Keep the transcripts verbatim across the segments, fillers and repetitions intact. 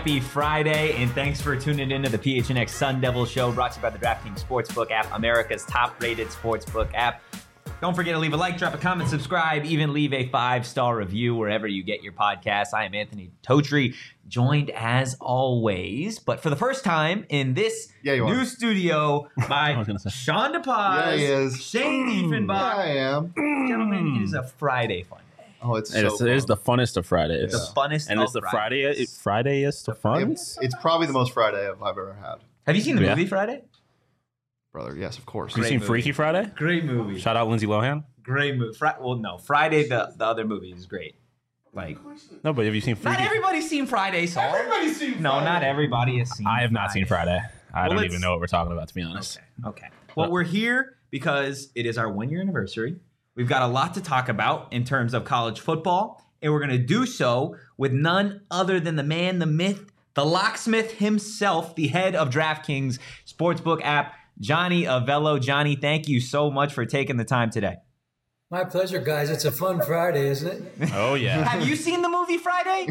Happy Friday, and thanks for tuning into the P H N X Sun Devil Show, brought to you by the DraftKings Sportsbook app, America's top-rated sportsbook app. Don't forget to leave a like, drop a comment, subscribe, even leave a five-star review wherever you get your podcasts. I am Anthony Totri, joined as always, but for the first time in this yeah, new are. studio by Sean DePaz, yeah, he is. Shane Diefenbach. Yeah, I am. Gentlemen, it is a Friday fun day. Oh, it's it, so is, it is the funnest of Fridays. The funnest and of it's the Fridays. Friday. It, Friday-est of fun. It's, it's probably the most Friday I've ever had. Have you seen the Yeah. movie Friday? Brother, yes, of course. Have you Great seen movie. Freaky Friday? Great movie. Shout out Lindsay Lohan. Great movie. Fri- well, no, Friday, the, the other movie is great. Like, No, but have you seen Freaky? not everybody's seen Friday, Saul. Everybody's seen No, Friday. not everybody has seen I have not seen Friday. I Well, don't let's- even know what we're talking about, to be honest. Okay. Okay. Well, we're here because it is our one-year anniversary. We've got a lot to talk about in terms of college football, and we're going to do so with none other than the man, the myth, the locksmith himself, the head of DraftKings Sportsbook app, Johnny Avello. Johnny, thank you so much for taking the time today. My pleasure, guys. It's a fun Friday, isn't it? Oh, yeah. Have you seen the movie Friday?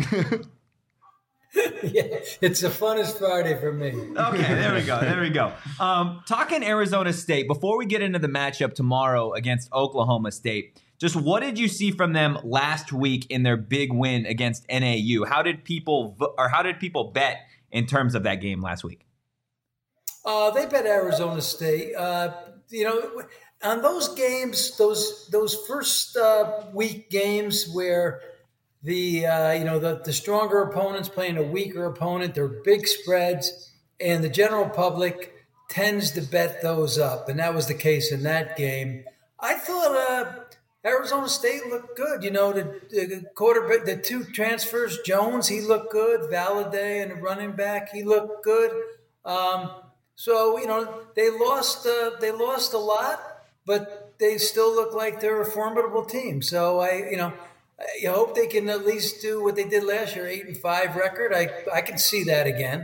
Yeah, it's the funnest Friday for me. Okay, there we go. There we go. Um, talking Arizona State, before we get into the matchup tomorrow against Oklahoma State, just what did you see from them last week in their big win against N A U? How did people vo- or how did people bet in terms of that game last week? Uh, they bet Arizona State. Uh, you know, on those games, those those first uh, week games where the uh, you know the, the stronger opponents playing a weaker opponent, they're big spreads, and the general public tends to bet those up, and that was the case in that game. I thought uh, Arizona State looked good. You know, the, the quarterback, the two transfers, Jones, he looked good. Valladay and the running back, he looked good. Um, so you know they lost uh, they lost a lot, but they still look like they're a formidable team. So I you know. I hope they can at least do what they did last year, eight and five record. I I can see that again.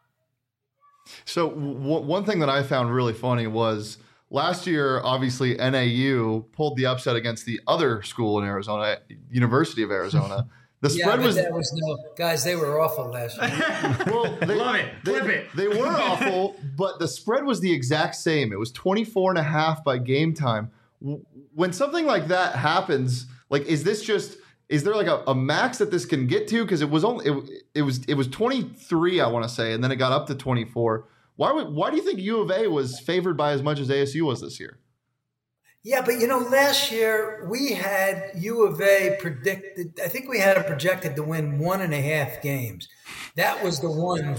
So w- one thing that I found really funny was last year, obviously N A U pulled the upset against the other school in Arizona, University of Arizona. The Yeah, spread but was, that was no guys. They were awful last year. well, they, Love it. They, Flip it. they were awful, but the spread was the exact same. It was twenty-four and a half by game time. W- When something like that happens, like, is this just, is there like a, a max that this can get to? Because it was only, it, it was, it was twenty-three, I want to say, and then it got up to twenty-four. Why would, why do you think U of A was favored by as much as A S U was this year? Yeah, but you know, last year we had U of A predicted. I think we had it projected to win one and a half games. That was the one.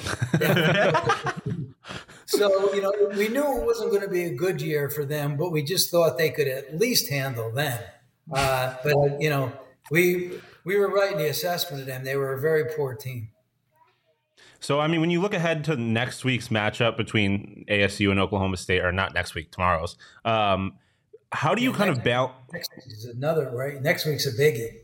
That, so you know, we knew it wasn't going to be a good year for them, but we just thought they could at least handle them. Uh, but you know, we we were right in the assessment of them. They were a very poor team. So, I mean, when you look ahead to next week's matchup between A S U and Oklahoma State, or not next week, tomorrow's, um, how do you kind of balance? Next week is another right. Next week's a biggie.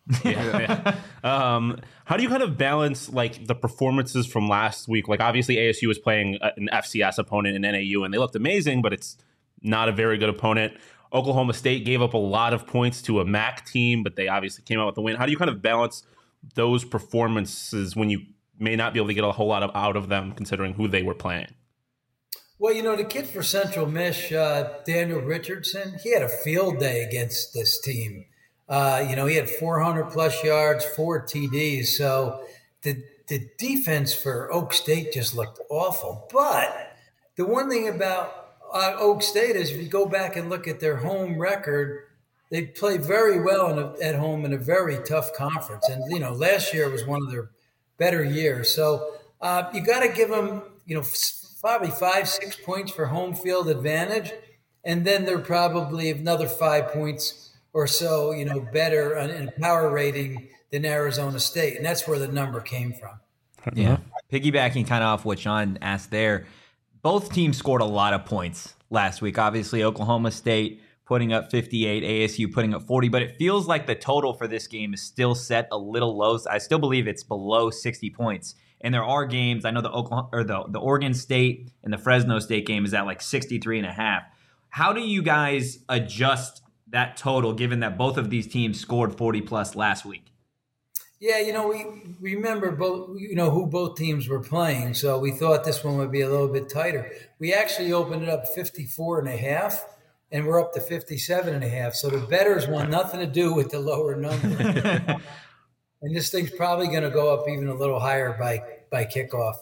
Yeah, yeah. Um, how do you kind of balance like the performances from last week? Like, obviously, A S U was playing an F C S opponent in N A U, and they looked amazing, but it's not a very good opponent. Oklahoma State gave up a lot of points to a M A C team, but they obviously came out with the win. How do you kind of balance those performances when you may not be able to get a whole lot of out of them, considering who they were playing? Well, you know, the kid for Central Mich, uh, Daniel Richardson, he had a field day against this team. Uh, you know, he had four hundred plus yards, four T Ds. So the the defense for Oak State just looked awful. But the one thing about uh, Oak State is if you go back and look at their home record, they play very well in a, at home in a very tough conference. And, you know, last year was one of their better years. So uh, you got to give them, you know, probably five, six points for home field advantage. And then they're probably another five points or so, you know, better in power rating than Arizona State. And that's where the number came from. Yeah. Piggybacking kind of off what Sean asked there, both teams scored a lot of points last week. Obviously, Oklahoma State putting up fifty-eight, A S U putting up forty, but it feels like the total for this game is still set a little low. I still believe it's below sixty points. And there are games, I know the Oklahoma or the, the Oregon State and the Fresno State game is at like sixty-three and a half. How do you guys adjust that total given that both of these teams scored forty plus last week? Yeah, you know, we remember both, you know, who both teams were playing. So we thought this one would be a little bit tighter. We actually opened it up fifty-four and a half, and we're up to fifty-seven and a half. So the bettors want nothing to do with the lower number. And this thing's probably going to go up even a little higher by, by kickoff.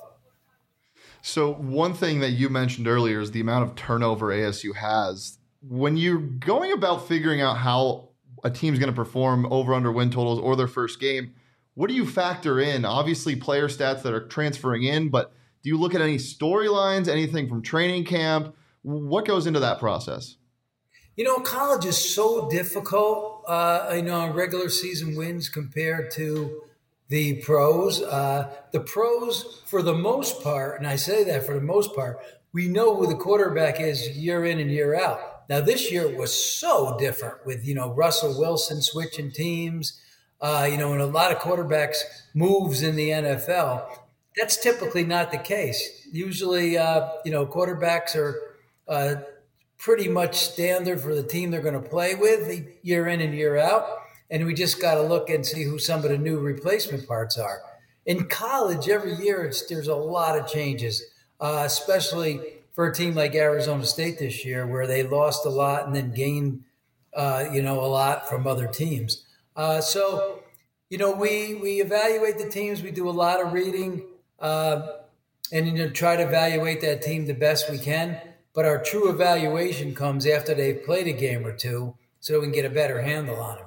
So one thing that you mentioned earlier is the amount of turnover A S U has. When you're going about figuring out how a team's going to perform over under win totals or their first game, what do you factor in? Obviously player stats that are transferring in, but do you look at any storylines, anything from training camp? What goes into that process? You know, college is so difficult, uh, I know, on regular season wins compared to the pros. Uh, the pros, for the most part, and I say that for the most part, we know who the quarterback is year in and year out. Now, this year was so different with, you know, Russell Wilson switching teams. Uh, you know, and a lot of quarterbacks moves in the N F L. That's typically not the case. Usually, uh, you know, quarterbacks are uh, pretty much standard for the team they're going to play with year in and year out. And we just got to look and see who some of the new replacement parts are. In college, every year, it's, there's a lot of changes, uh, especially for a team like Arizona State this year, where they lost a lot and then gained, uh, you know, a lot from other teams. Uh, so, you know, we we evaluate the teams. We do a lot of reading uh, and, you know, try to evaluate that team the best we can. But our true evaluation comes after they've played a game or two so we can get a better handle on them.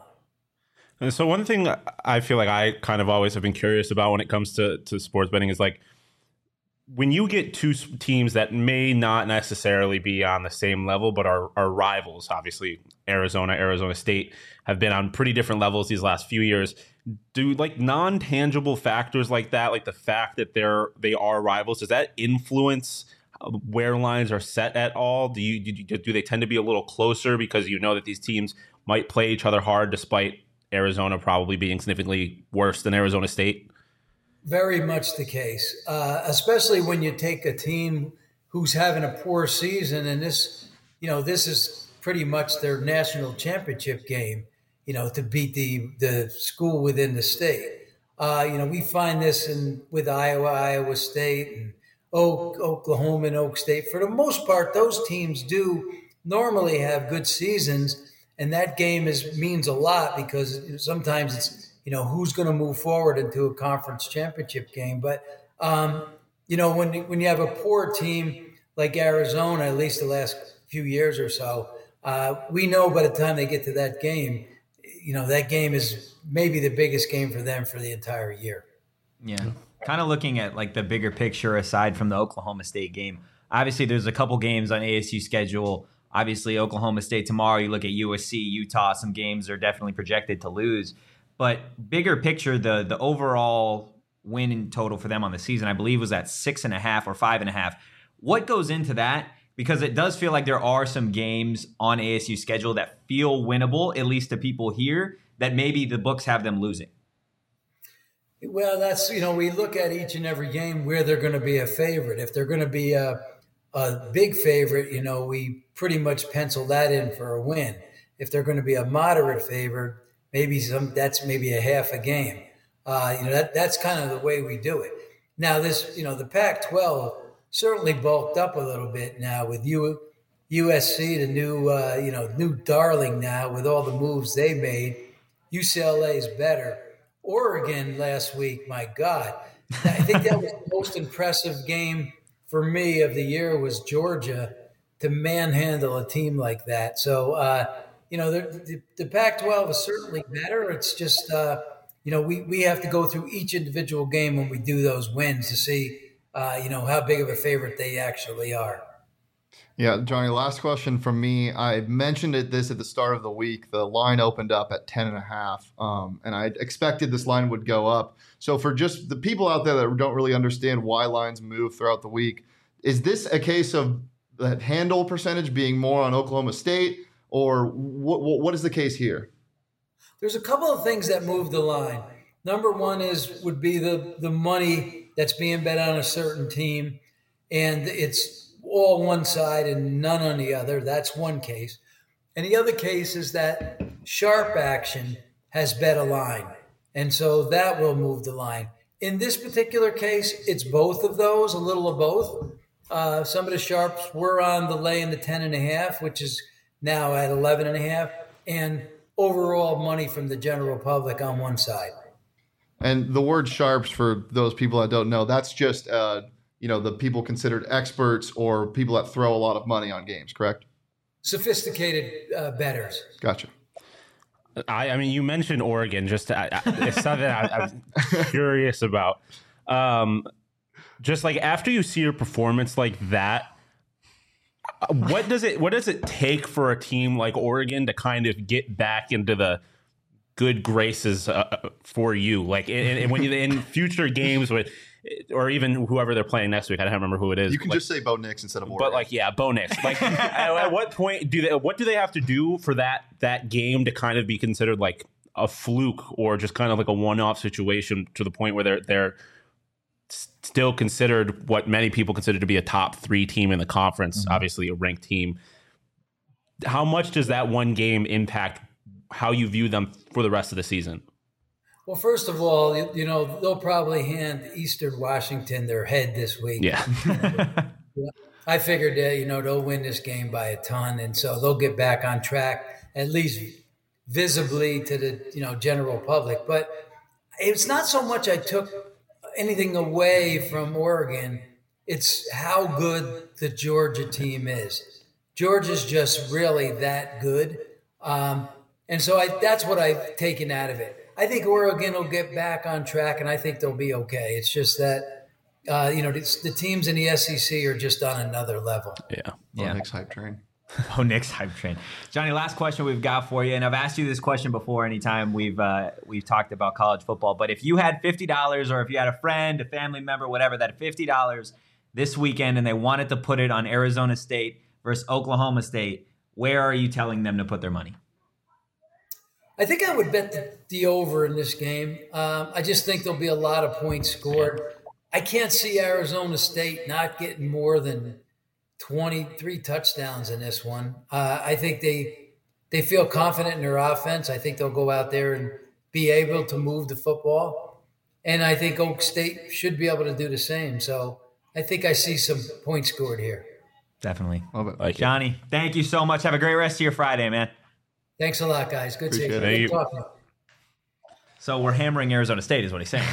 And so one thing I feel like I kind of always have been curious about when it comes to, to sports betting is like, when you get two teams that may not necessarily be on the same level, but are, are rivals, obviously Arizona, Arizona State have been on pretty different levels these last few years. Do like non-tangible factors like that, like the fact that they're they are rivals, does that influence where lines are set at all? Do you do, do they tend to be a little closer because you know that these teams might play each other hard, despite Arizona probably being significantly worse than Arizona State? Very much the case, uh, especially when you take a team who's having a poor season, and this, you know, this is pretty much their national championship game, you know, to beat the the school within the state. Uh, you know, we find this in with Iowa, Iowa State, and Oak, Oklahoma, and Oak State. For the most part, those teams do normally have good seasons, and that game is means a lot because sometimes it's, you know, who's going to move forward into a conference championship game. But, um, you know, when, when you have a poor team like Arizona, at least the last few years or so, uh, we know by the time they get to that game, you know, that game is maybe the biggest game for them for the entire year. Yeah. Kind of looking at like the bigger picture aside from the Oklahoma State game. Obviously, there's a couple games on A S U schedule. Obviously, Oklahoma State tomorrow. You look at U S C, Utah, some games are definitely projected to lose. But bigger picture, the the overall win in total for them on the season, I believe, was at six and a half or five and a half. What goes into that? Because it does feel like there are some games on A S U schedule that feel winnable, at least to people here, that maybe the books have them losing. Well, that's, you know, we look at each and every game where they're going to be a favorite. If they're going to be a, a big favorite, you know, we pretty much pencil that in for a win. If they're going to be a moderate favorite, maybe some that's maybe a half a game. Uh, you know, that that's kind of the way we do it. Now, this, you know, the Pac twelve certainly bulked up a little bit now with U, USC, the new, uh, you know, new darling now with all the moves they made. U C L A is better. Oregon last week, my God, I think that was the most impressive game for me of the year was Georgia to manhandle a team like that. So, uh, you know, the, the, the Pac twelve is certainly better. It's just, uh, you know, we, we have to go through each individual game when we do those wins to see, uh, you know, how big of a favorite they actually are. Yeah, Johnny, last question from me. I mentioned it this at the start of the week. The line opened up at ten and a half, um, and I expected this line would go up. So for just the people out there that don't really understand why lines move throughout the week, is this a case of that handle percentage being more on Oklahoma State, or what, what is the case here? There's a couple of things that move the line. Number one is would be the, the money that's being bet on a certain team, and it's all one side and none on the other. That's one case. And the other case is that sharp action has bet a line. And so that will move the line. In this particular case, it's both of those, a little of both. Uh, some of the sharps were on the lay in the ten and a half, which is now at eleven and a half, and overall money from the general public on one side. And the word sharps, for those people that don't know, that's just uh, you know, the people considered experts or people that throw a lot of money on games, correct? Sophisticated uh, bettors. Gotcha. I, I mean, you mentioned Oregon. Just to, I, I, it's something I, I'm curious about. Um, just like after you see a performance like that, what does it what does it take for a team like Oregon to kind of get back into the good graces uh, for you? Like, in, in, when you in future games with, or even whoever they're playing next week, I don't remember who it is. You can like, just say Bo Nix instead of Oregon. But like, yeah, Bo Nix. Like, at, at what point do they? What do they have to do for that that game to kind of be considered like a fluke or just kind of like a one-off situation to the point where they're they're still considered what many people consider to be a top three team in the conference, mm-hmm. obviously a ranked team. How much does that one game impact how you view them for the rest of the season? Well, first of all, you, you know, they'll probably hand Eastern Washington their head this week. Yeah. I figured that, you know, they'll win this game by a ton. And so they'll get back on track, at least visibly to the, you know, general public. But it's not so much I took anything away from Oregon. It's how good the Georgia team is. Georgia's just really that good. Um, and so I, that's what I've taken out of it. I think Oregon will get back on track, and I think they'll be okay. It's just that, uh, you know, the teams in the S E C are just on another level. Yeah. Bo yeah. Nix hype train. Oh, Nick's hype train. Johnny, last question we've got for you, and I've asked you this question before anytime we've uh, we've talked about college football, but if you had fifty dollars or if you had a friend, a family member, whatever, that had fifty dollars this weekend and they wanted to put it on Arizona State versus Oklahoma State, where are you telling them to put their money? I think I would bet the, the over in this game. Um, I just think there'll be a lot of points scored. I can't see Arizona State not getting more than twenty-three touchdowns in this one. Uh, I think they they feel confident in their offense. I think they'll go out there and be able to move the football. And I think Oak State should be able to do the same. So I think I see some points scored here. Definitely. Love it. Like Johnny, thank you so much. Have a great rest of your Friday, man. Thanks a lot, guys. Good seeing you. Appreciate it. Good talking. So we're hammering Arizona State is what he's saying.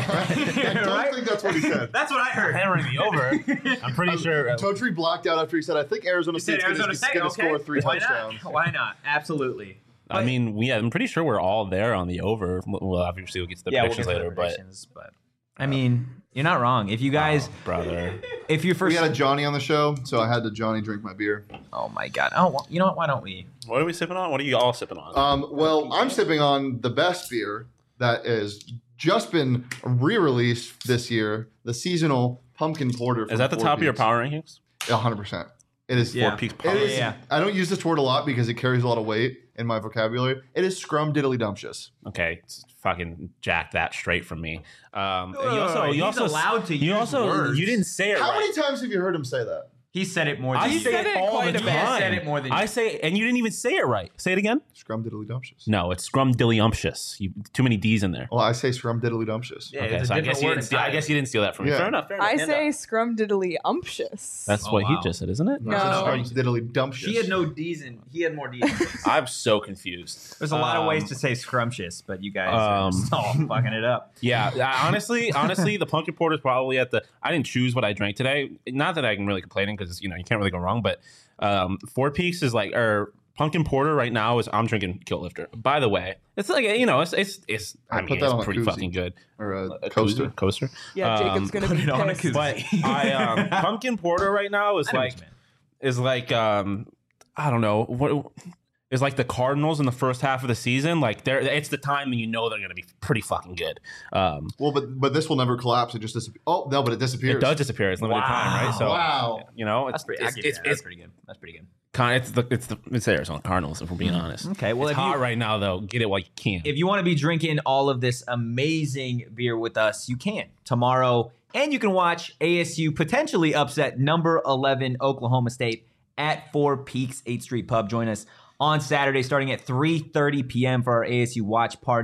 I don't Right? think that's what he said. That's what I heard. hammering the over. I'm pretty sure. Uh, Totri blocked out after he said, I think Arizona You said State's Arizona going State, to okay. score three Why touchdowns. not? Why not? Absolutely. I mean, yeah, I'm pretty sure we're all there on the over. Well, obviously we'll get to the Yeah, we'll predictions get to the later, predictions, but I mean, you're not wrong. If you guys, but oh, brother, if you We first, had a Johnny on the show, so I had to Johnny drink my beer. oh my god, oh, well, you know what? Why don't we? what are we sipping on? What are you all sipping on? Um, well, I'm sipping on the best beer that has just been re-released this year, the seasonal pumpkin porter. Is that the Four top of your Peaks. power rankings? one hundred percent. It is Yeah. Four Peaks It power. is, Yeah. I don't use this word a lot because it carries a lot of weight in my vocabulary. It is scrum-diddly-dumptious. Okay, it's fucking jack that straight from me. Um, and you Wait, also, wait, wait. you He's also, allowed to you use also, words. you didn't say it How right. many times have you heard him say that? He said it more than I you. say did. it all quite the a bit. time. Said it more than you. I say, and you didn't even say it right. Say it again. Scrum-diddly-dumptious. No, it's scrumdiddlyumptious. You too many D's in there. Well, I say scrum-diddly-dumptious. Yeah, Okay, it's so a I different guess you word didn't. Steal, I entirely. guess you didn't steal that from me. Yeah. Fair enough. Fair enough. I Hand say up. scrum diddly umptious. That's Oh, what wow. he just said, isn't it? No. Scrum-diddly-dumptious. He had no D's in. He had more D's. in his. I'm so confused. There's a lot of Um, ways to say scrumptious, but you guys are um, just all fucking it up. Yeah, I- honestly, honestly, the pumpkin porter is probably at the. I didn't choose what I drank today. Not that I can really complain because you know you can't really go wrong. But um, Four Peaks is like, or pumpkin porter right now is I'm drinking Kilt Lifter. By the way, it's like you know, it's it's, it's I I mean, put that on it's a pretty koozie. fucking good. Or a, A coaster. koozie? coaster. Yeah, Jacob's Um, gonna put be it on a pissed. koozie. But I um, pumpkin porter right now is I know what like you meant. is like um, I don't know what. Is like the Cardinals in the first half of the season. Like they're, it's the time when you know they're going to be pretty fucking good. Um, Well, but but this will never collapse. It just disappears. Oh, no, but it disappears. it does disappear. It's limited time, right? So wow. you know, it's That's pretty. I it's, give you it's, that. That's it's, pretty good. That's pretty good. kind it's the it's the it's the Arizona Cardinals. If we're being honest, Okay, well, it's if hot you- right now though. Get it while you can. If you want to be drinking all of this amazing beer with us, you can tomorrow. And you can watch A S U potentially upset number eleven Oklahoma State at Four Peaks eighth Street Pub. Join us on Saturday starting at three thirty p.m. for our A S U watch party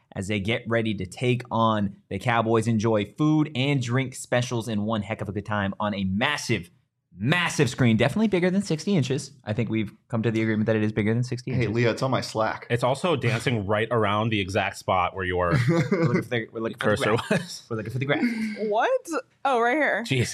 as they get ready to take on the Cowboys. Enjoy food and drink specials and one heck of a good time on a massive, massive screen. Definitely bigger than sixty inches. I think we've come to the agreement that it is bigger than sixty Hey, inches. Leah, it's on my Slack. It's also dancing right around the exact spot where your We're looking for the, we're looking for the cursor graph. was. We're looking for the graph. What? Oh, right here. Jeez.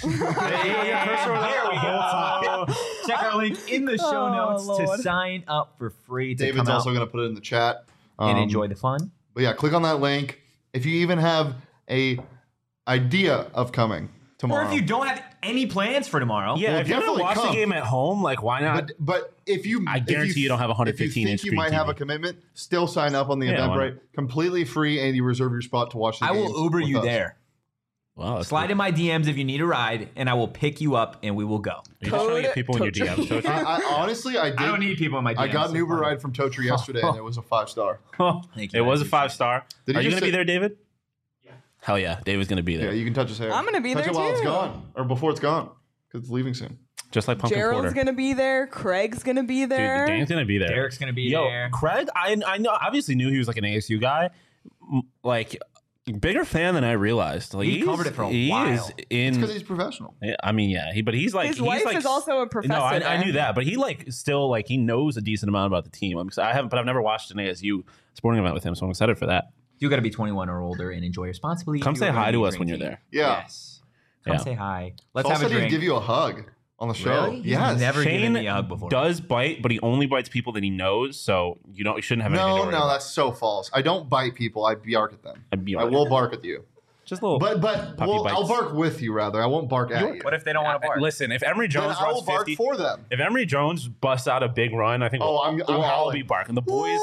There we go. Check our link in the show Oh, notes Lord. to sign up for free to David's come out also going to put it in the chat. and Um, enjoy the fun. But yeah, click on that link. If you even have a idea of coming Or tomorrow. if you don't have any plans for tomorrow, Yeah, Well, if you're gonna definitely watch come. the game at home, like why not? But, but if you, I if guarantee you don't have a one hundred fifteen if you inch think you screen might have T a V. commitment, still sign up on the Yeah, why Eventbrite, completely free, and you reserve your spot to watch the I game. will Uber with you us. there. Wow, that's Slide cool. in my D Ms if you need a ride, and I will pick you up and we will go. Are you just trying to get people in your D Ms? Tochi? I, I honestly, I did. I don't need people in my D Ms. I got an so Uber fine. ride from Totri yesterday, and it was a five star. Thank you, It I was a appreciate five it. star. Did Are he you just gonna be say- there, David? Yeah. Hell yeah, David's gonna be Yeah, there. you can touch his hair. I'm gonna be touch there it while it's too. gone, or before it's gone, because it's leaving soon. Just like Pumpkin Gerald's Porter. gonna be there. Craig's gonna be Dude, there. Dan's gonna be there. Derek's gonna be Yo, there. Craig, I I know obviously knew he was like an A S U guy. M- Like bigger fan than I realized. Like He he's- covered it for a he while. is in It's because he's professional. Yeah, I mean, yeah, he, but he's like His he's wife like, is also a professor No, I, I there. knew that, but he like still like he knows a decent amount about the team. I'm excited. I haven't, but I've never watched an A S U sporting event with him, so I'm excited for that. You got to be twenty-one or older and enjoy responsibly. Come if say you are hi gonna to be us when you're drinking. there. Yeah. Yes. Come Yeah. say hi. Let's Saul have a said he'd drink. give you a hug on the show. Really? He's Yes. never given Shane me a hug before. does bite, but he only bites people that he knows, so you don't you shouldn't have anything to No, worry no, about. that's so false. I don't bite people. I bark at them. I'd be I all right. will bark at you. Just a little. But but Puppy well, I'll bites. bark with you rather. I won't bark at you. What if they don't want to bark? Listen, if Emory Then Jones I will runs bark fifty, for them. if Emory Jones busts out a big run, I think Oh, we'll, I'm- I'm we'll all howling. be barking. The boys.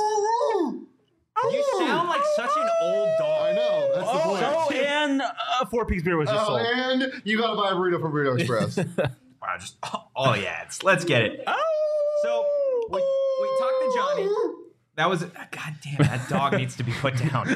You sound like such an old dog. I know. That's the point. Oh, and uh, Four Peaks beer was just Oh, sold. and you gotta buy a burrito from Burrito Express. Wow, just oh yeah, it's, let's get it. So we, we talked to Johnny. That was God damn, that dog needs to be put down.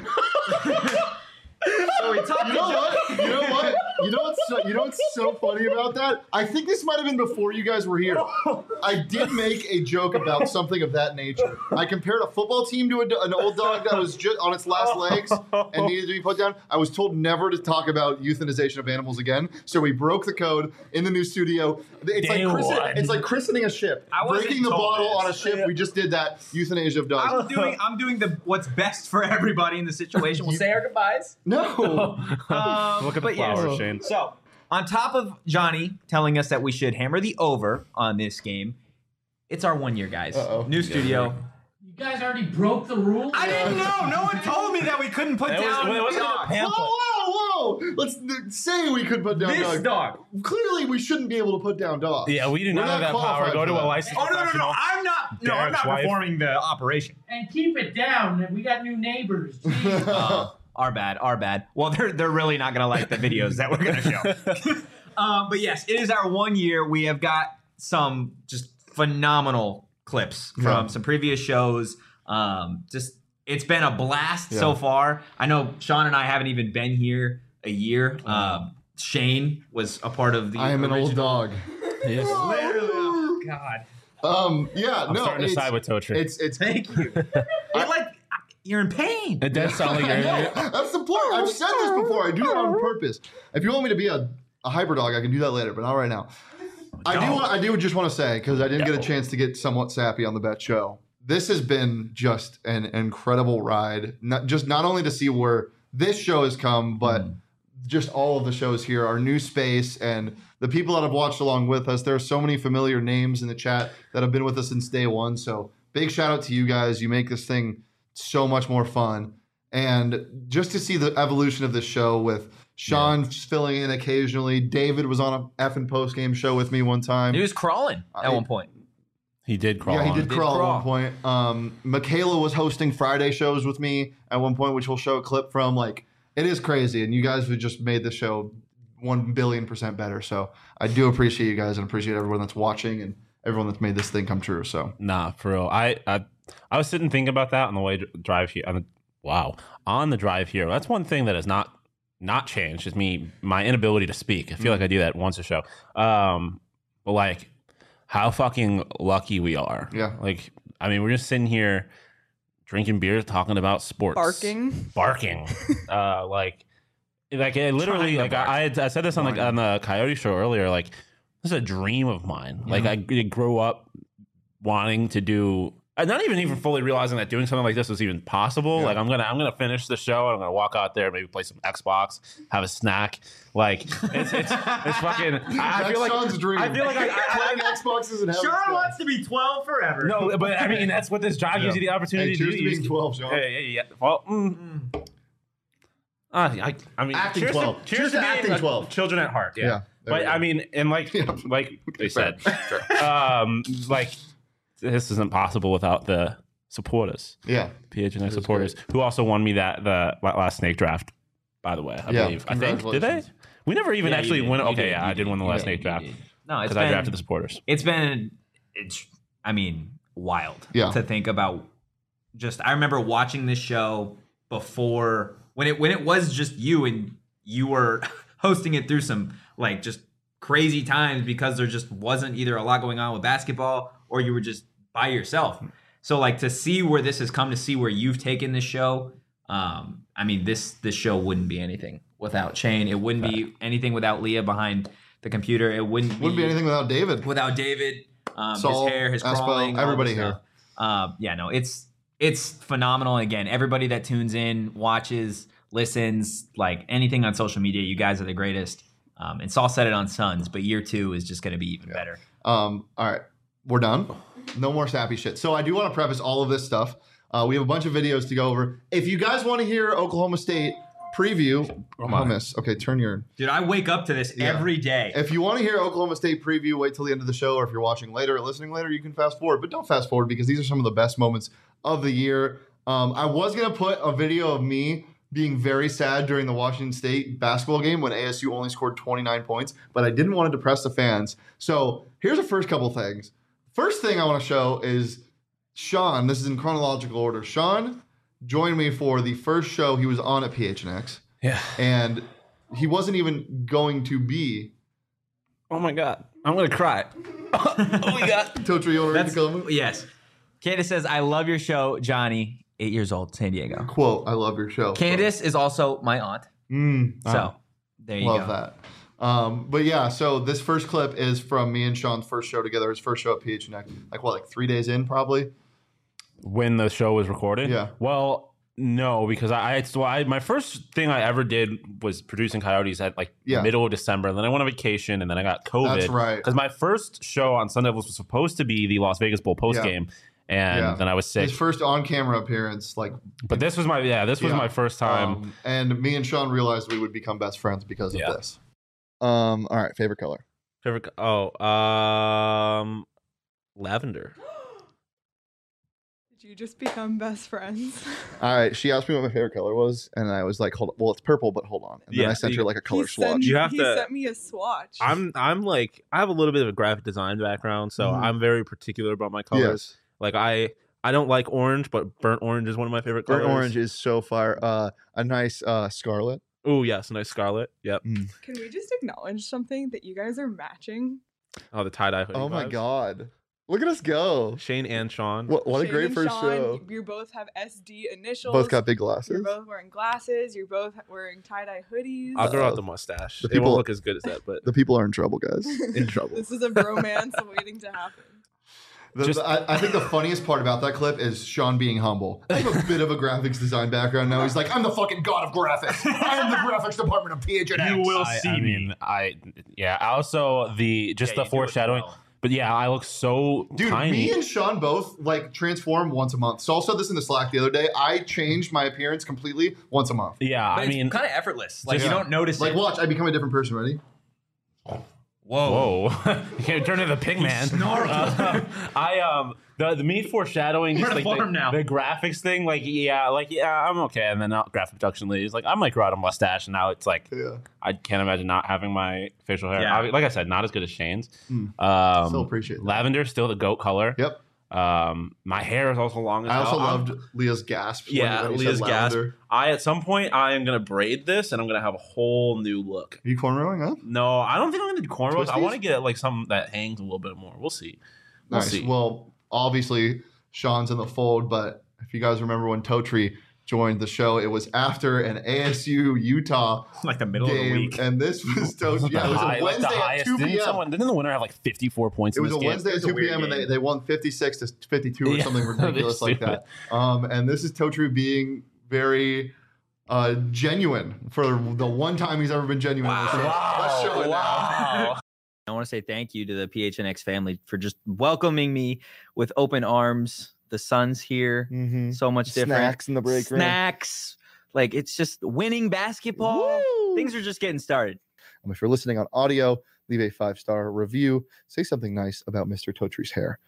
So we talked You to know Johnny. what? You know what? You know what's so, you know what's so funny about that? I think this might have been before you guys were here. I did make a joke about something of that nature. I compared a football team to a, an old dog that was just on its last legs and needed to be put down. I was told never to talk about euthanization of animals again, so we broke the code in the new studio. It's like Day christen- one. it's like christening a ship, I wasn't breaking the told bottle this. on a ship. We just did that euthanasia of dogs. I'm doing I'm doing the what's best for everybody in the situation. We'll say our goodbyes. No. Um, Look at the but yes. flowers, Shane. So, on top of Johnny telling us that we should hammer the over on this game, it's our one year, guys. Uh-oh. New studio. You guys already broke the rules? I didn't know. No one told me that we couldn't put It was- down it wasn't in the dogs. pamphlet. Whoa, whoa, whoa! Let's n- say we could put down This dogs. dog. Clearly, we shouldn't be able to put down dogs. Yeah, we do We're not have that power. qualified Go for to a that. licensed Oh no no no! professional. I'm not. No, I'm Derek's not wife. performing the operation. And keep it down. We got new neighbors. Jeez. Uh, our bad. Our bad. Well, they're they're really not gonna like the videos that we're gonna show. um, but yes, it is our one year. We have got some just phenomenal clips from Yeah. some previous shows. Um, just it's been a blast so Yeah. far. I know Sean and I haven't even been here a year. Um, Shane was a part of the. I am an old original- dog. Yes. Literally, oh God. Um, yeah, I'm no, starting to it's, side with Totri. it's it's. Thank you. It, like you're in pain. It does sound like I you're. know. That's the point. I've said this before. I do that on purpose. If you want me to be a, a hyper dog, I can do that later, but not right now. I do. Don't. Want, I do just want to say because I didn't get a No. chance to get somewhat sappy on the bet show. This has been just an incredible ride. Not just not only to see where this show has come, but Mm. just all of the shows here, our new space, and the people that have watched along with us. There are so many familiar names in the chat that have been with us since day one. So big shout out to you guys. You make this thing so much more fun. And just to see the evolution of this show with Sean filling in occasionally. David was on a effing post game show with me one time. He was crawling at I- one point. He did crawl. Yeah, he on did it. Did crawl, crawl. at one point. Um, Michaela was hosting Friday shows with me at one point, which we'll show a clip from. Like, it is crazy, and you guys have just made the show one billion percent better. So I do appreciate you guys and appreciate everyone that's watching and everyone that's made this thing come true. So Nah, for real. I I, I was sitting thinking about that on the way to drive here. On the, wow, on the drive here. That's one thing that has not not changed. Is me my inability to speak. I feel like I do that once a show. Um, but like, how fucking lucky we are. Yeah. Like, I mean, we're just sitting here drinking beer, talking about sports, Barking. barking, uh, like, like it literally, Trying like to bark. I, I, had, I said this on the on the Coyote show earlier. Like, this is a dream of mine. Like, I grew up wanting to do. And not even even fully realizing that doing something like this was even possible. Yeah. Like I'm gonna I'm gonna finish the show. And I'm gonna walk out there, maybe play some Xbox, have a snack. Like it's it's, it's fucking. I, I That's feel like Sean's dream. I feel like I, I, Playing Xboxes and having Sean fun. wants to be twelve forever. no, but I mean that's what this job gives you the opportunity Hey, to cheers do. to You being just- twelve, Sean. Yeah, yeah, yeah. Well, mm, uh, I, I mean, Acting cheers twelve. To, Cheers cheers to to being acting a- twelve. Children at heart. Yeah. Yeah, there we But go. I mean, and like Yeah. like they said, Fair. um, like this isn't possible without the supporters. Yeah. P H N X It was supporters who also won me that the last snake draft. By the way, I Yeah, believe. I think did they? congratulations. We never even Yeah, you actually did. win. You Okay, did. yeah, You I did did. win the You last did. snake You draft did. No, it's because I been, drafted the supporters. It's been, it's, I mean, wild Yeah. to think about. Just, I remember watching this show before when it when it was just you and you were hosting it through some like just crazy times because there just wasn't either a lot going on with basketball or you were just by yourself. So like to see where this has come, to see where you've taken this show. Um, I mean, this this show wouldn't be anything without Shane. It wouldn't be anything without Leah behind the computer. It wouldn't be, Wouldn't be anything without David. without David. Um, Saul, his hair, his Espo, crawling, all everybody this here. stuff. Uh, yeah, no, it's it's phenomenal. Again, everybody that tunes in, watches, listens, like anything on social media, you guys are the greatest. Um, and Saul said it on Suns, but year two is just going to be even better. Um, all right, we're done. No more sappy shit. So I do want to preface all of this stuff. Uh, we have a bunch of videos to go over. If you guys want to hear Oklahoma State preview, hummus. Okay, turn your. Dude, I wake up to this Yeah. every day. If you want to hear Oklahoma State preview, wait till the end of the show. Or if you're watching later or listening later, you can fast forward. But don't fast forward because these are some of the best moments of the year. Um, I was gonna put a video of me being very sad during the Washington State basketball game when A S U only scored twenty-nine points, but I didn't want to depress the fans. So here's the first couple things. First thing I want to show is Sean. This is in chronological order. Sean joined me for the first show he was on at P H N X, Yeah. and he wasn't even going to be. Oh my god, I'm gonna cry. oh my god. Totra, you want to read That's, the comment? yes. Candace says, I love your show, Johnny, eight years old, San Diego. Quote, I love your show. Candace is also my aunt. Mm, So there you love go. that. Um, but yeah, so this first clip is from me and Sean's first show together. His first show at P H N X, like what, like three days in, probably. When the show was recorded? Yeah. Well, no, because I, I, so I my first thing I ever did was producing Coyotes at like Yeah. the middle of December. And then I went on vacation and then I got COVID. That's right. Because my first show on Sunday was supposed to be the Las Vegas Bowl post game. And Yeah. then I was sick. His first on-camera appearance, like, But this was my, yeah, this was Yeah. my first time. um, and me and Sean realized we would become best friends because of Yeah. this. Um, all right, favorite color. Favorite, oh, um, lavender. Did you just become best friends? All right, she asked me what my favorite color was, and I was like, "Hold, well, it's purple, but hold on." And then Yeah, I sent you- her like a color he swatch. Sent, You have he to- sent me a swatch. I'm, I'm like, I have a little bit of a graphic design background, so Mhm. I'm very particular about my colors. Yes. Like I, I don't like orange, but burnt orange is one of my favorite colors. Burnt orange is so fire. Uh, a nice uh, scarlet. Oh yes, nice scarlet. Yep. Can we just acknowledge something that you guys are matching? Oh, the tie dye hoodie. Oh my vibes. god, look at us go! Shane and Sean. What what a Shane great and first Sean, show. You both have S D initials. Both got big You're glasses. both wearing glasses. You're both wearing tie dye hoodies. I'll grow Uh, out the mustache. the it people- won't look as good as that, but The people are in trouble, guys. In trouble. This is a bromance waiting to happen. The- Just- the- I, I think the funniest part about that clip is Sean being humble. I have a bit of a graphics design background now. He's like, I'm the fucking god of graphics. I am the graphics department of P H N X. I, I mean, I yeah. Also, the just Yeah, the you do it foreshadowing. well. But yeah, I look so Dude, tiny. me and Sean both like transform once a month. Saul said this in the Slack the other day. I changed my appearance completely once a month. yeah, But I it's mean, kind of effortless. Like Yeah. you don't notice Like, it. watch, I become a different person. Ready? Whoa. whoa, you can't turn into the pig man. snarled. Uh, I um the the me foreshadowing, We're just in a like farm the, now. the graphics thing. Like yeah, like yeah, I'm okay. And then uh, graphic production lead is like I might grow out a mustache, and now it's like Yeah. I can't imagine not having my facial hair. Yeah. Obvi- Like I said, not as good as Shane's. Mm. Um, Still appreciate that. lavender, still the goat color. Yep. Um, my hair is also long as I hell. also I'm- loved Leah's gasp. Yeah, when, when he Leah's said gasp. lavender. I at some point I am gonna braid this and I'm gonna have a whole new look. Are you cornrowing up? No, I don't think I'm gonna do cornrows. I Twisties? want to get like some that hangs a little bit more. We'll see. We'll Nice. see. Well, obviously, Sean's in the fold, but If you guys remember when Totri joined the show, it was after an A S U Utah Like the middle game, of the week. and this was Totri. Yeah, it was High- a like the Wednesday at highest- two Didn't, p.m. someone, didn't the winner have like fifty-four points It in was this a game? Wednesday at was a two weird p.m. and they, game. they won fifty-six to fifty-two or Yeah. something ridiculous like Stupid. that. Um, and this is Totri being very uh, genuine for the one time he's ever been genuine. on the show. Let's show it now. Wow. I want to say thank you to the P H N X family for just welcoming me with open arms. The sun's here, Mm-hmm. so much different. Snacks in the break room. Snacks. Like it's just winning basketball. Woo! Things are just getting started. Um, if you're listening on audio, leave a five star review. Say something nice about Mister Totri's hair.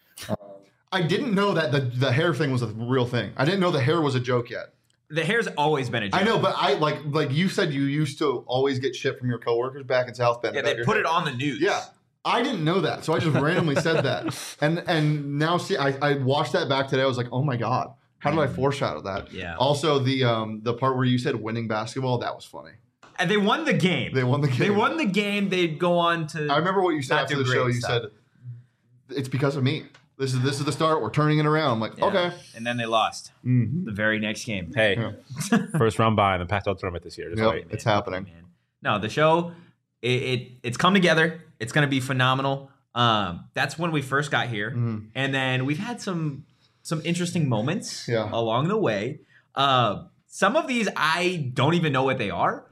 I didn't know that the, the hair thing was a real thing. I didn't know the hair was a joke yet. The hair's always been a joke. I know, but I like like you said you used to always get shit from your coworkers back in South Bend. Yeah, about they your put hair. it on the news. Yeah. I didn't know that, so I just randomly said that, and and now see, I, I watched that back today. I was like, oh my god, how did I foreshadow that? Yeah. Also, the um the part where you said winning basketball, that was funny. And they won the game. They won the game. They won the game. They'd go on to. I remember what you said Not after do the show. great You stuff. said it's because of me. This is this is the start. We're turning it around. I'm like, Yeah. okay. And then they lost Mhm. the very next game. Hey, Yeah. first round bye in the Pac twelve tournament this year. Just Yep, wait. it's happening. Man. No, the show, it, it it's come together. It's going to be phenomenal. Um, that's when we first got here, Mhm. and then we've had some some interesting moments Yeah. along the way. Uh, some of these I don't even know what they are,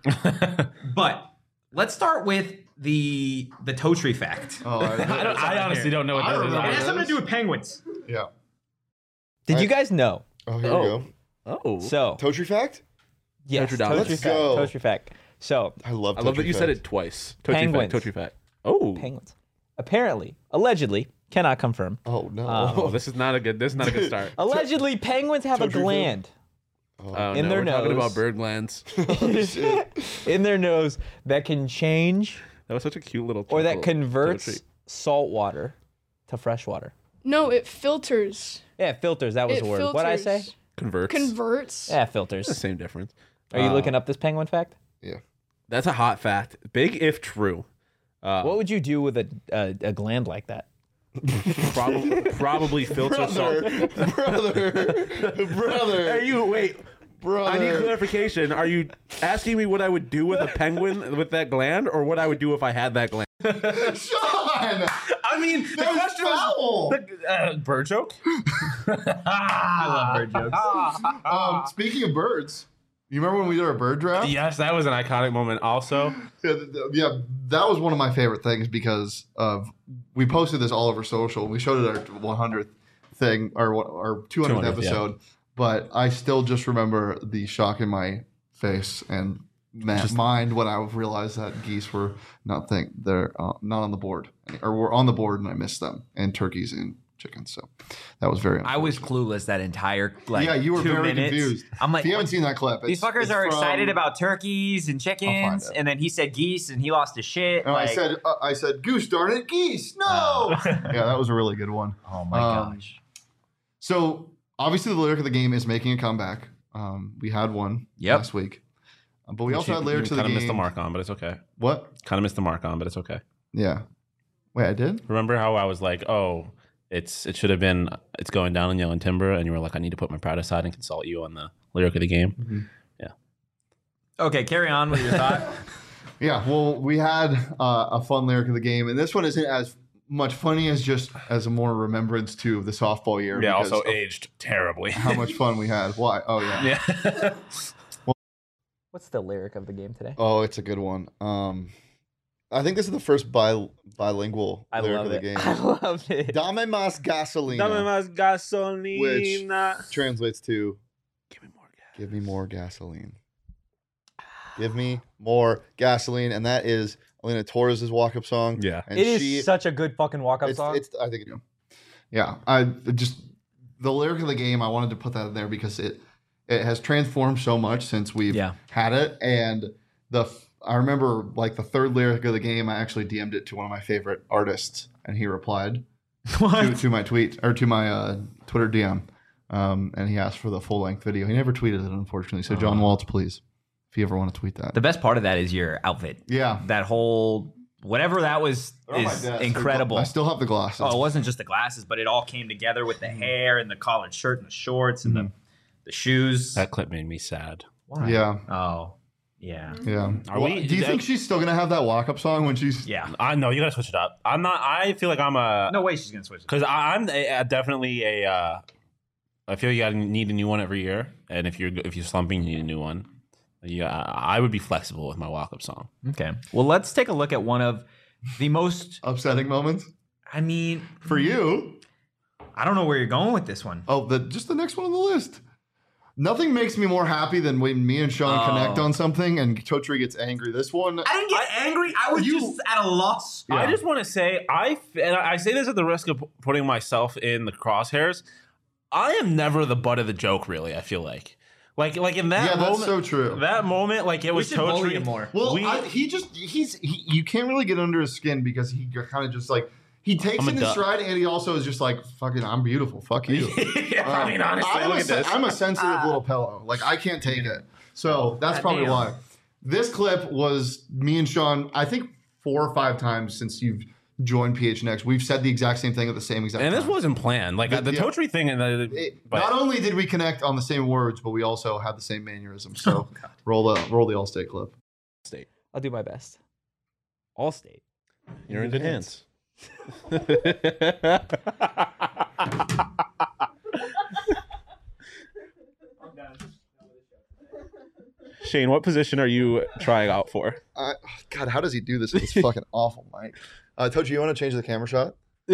but let's start with the the Totri fact. Oh, I, I, don't, I honestly don't know what I this don't is. know It what has it something is. to do with penguins. yeah. Did I- you guys know? Oh, here Oh. we go. Oh, So Totri fact? yes, Totri dollars. Totri Let's fact. go. Totri fact. So I love. I love Totri that you said fact. it twice. Totri Penguins. fact. Totri fact. Oh, penguins apparently, allegedly, cannot confirm. Oh no. oh, this is not a good. This is not a good start. Allegedly, penguins have a Totri fact. gland Oh, Oh, in no, their we're talking nose. about bird glands. oh, shit. in their nose that can change That was such a cute little. or that chuckle. converts Totri. salt water to fresh water. No, it filters. Yeah, filters. That was It the word. What I say? filters. converts. Converts. Yeah, It's the filters. same difference. Are you Uh, looking up this penguin fact? That's a hot fact. Big if true. Uh, What would you do with a a, a gland like that? probably probably filter salt. brother, brother, brother. Are you wait? brother? I need clarification. Are you asking me what I would do with a penguin with that gland, or what I would do if I had that gland? Sean, I mean, the that was question foul. was the, uh, bird joke. I love bird jokes. Um, speaking of birds, you remember when we did our bird draft? Yes, that was an iconic moment. Also, Yeah, th- th- yeah, that was one of my favorite things because of we posted this all over social. We showed it at our one hundredth thing or what- our two hundredth two hundredth, yeah. episode, but I still just remember the shock in my face and ma- mind when I realized that geese were not think they're uh, not on the board or were on the board and I missed them, and turkeys and chickens. So that was very. I was clueless that entire like Yeah, you were two very minutes. confused. I'm like, If you haven't seen that clip, these it's- fuckers it's are from- excited about turkeys and chickens, it. and then he said geese, and he lost his shit. And like, I said, uh, I said, goose darn it, geese, no. Yeah, that was a really good one. oh my um, gosh. So obviously, the lyric of the game is making a comeback. Um, we had one Yep. last week, Uh, but we also had lyrics of the kind of game. missed the mark on, but it's okay. What? Kind of missed the mark on, but it's okay. Yeah. Wait, I did. Remember how I was like, oh, it's it should have been it's going down in Yellow Timber, and you were like, I need to put my pride aside and consult you on the lyric of the game. Mm-hmm. Okay, carry on with your thought. Yeah. Well, we had uh, a fun lyric of the game, and this one isn't as much funny as just as a more remembrance to the softball year. Yeah, because also of aged terribly. how much fun we had. Why? Oh yeah. yeah. What's the lyric of the game today? Oh, it's a good one. Um, I think this is the first bi- bilingual I lyric love of the it. game. I love it. Dame más gasolina, más gasolina. Which translates to Give me more gas. give me more gasoline. Give me more gasoline, and that is Elena Torres' walk-up song. Yeah. and It is she, such a good fucking walk-up it's, song. it's I think it, yeah. I just the lyric of the game. I wanted to put that in there because it it has transformed so much since we've Yeah. had it, and the I remember like the third lyric of the game. I actually D M'd it to one of my favorite artists, and he replied to, to my tweet or to my uh, Twitter D M, um, and he asked for the full length video. He never tweeted it, unfortunately. So John Waltz, please, if you ever want to tweet that. The best part of that is your outfit. Yeah, That whole whatever that was They're on my is desk. incredible. I still have the glasses. Oh, it wasn't just the glasses, but it all came together with the hair and the collared shirt and the shorts and Mhm. the the shoes. That clip made me sad. Why? Yeah. Oh, yeah. Yeah. Are Well, we- do you think that- she's still gonna have that walk-up song when she's? Yeah. I know you gotta switch it up. I'm not. I feel like I'm a No way she's gonna switch it. because I'm a, a definitely a. Uh, I feel you gotta need a new one every year, and if you're if you're slumping, you need a new one. Yeah, I would be flexible with my walk-up song. Okay. Well, let's take a look at one of the most upsetting moments. I mean, for you, I don't know where you're going with this one. Oh, the just the next one on the list. Nothing makes me more happy than when me and Sean Oh. connect on something and Totri gets angry. This one, I didn't get angry. I was just at a loss. I just want to say, I f- and I say this at the risk of p- putting myself in the crosshairs. I am never the butt of the joke, really. I feel like, like, like in that Yeah, that's moment, so true. That moment, like it We was should bully totally him more. Well, We- I, he just he's he, you can't really get under his skin because he kind of just like he takes I'm a it in duck. stride and he also is just like fucking I'm beautiful, fuck you. Yeah, I mean, honestly, I'm, look a, at sen- this. I'm a sensitive little pillow. Like I can't take it, so that's probably Goddamn. why. This clip was me and Sean. I think four or five times since you've joined P H N X, we've said the exact same thing at the same exact and time. this wasn't planned. Like The- the, yeah. Totri thing, and the, It- but not only did we connect on the same words, but we also had the same mannerisms. So roll the roll the Allstate clip. state. I'll do my best. All state. You're in good hands. Shane, what position are you trying out for? Uh, God, how does he do this? It's fucking awful, Mike. Uh, Tochi, you want to change the camera shot?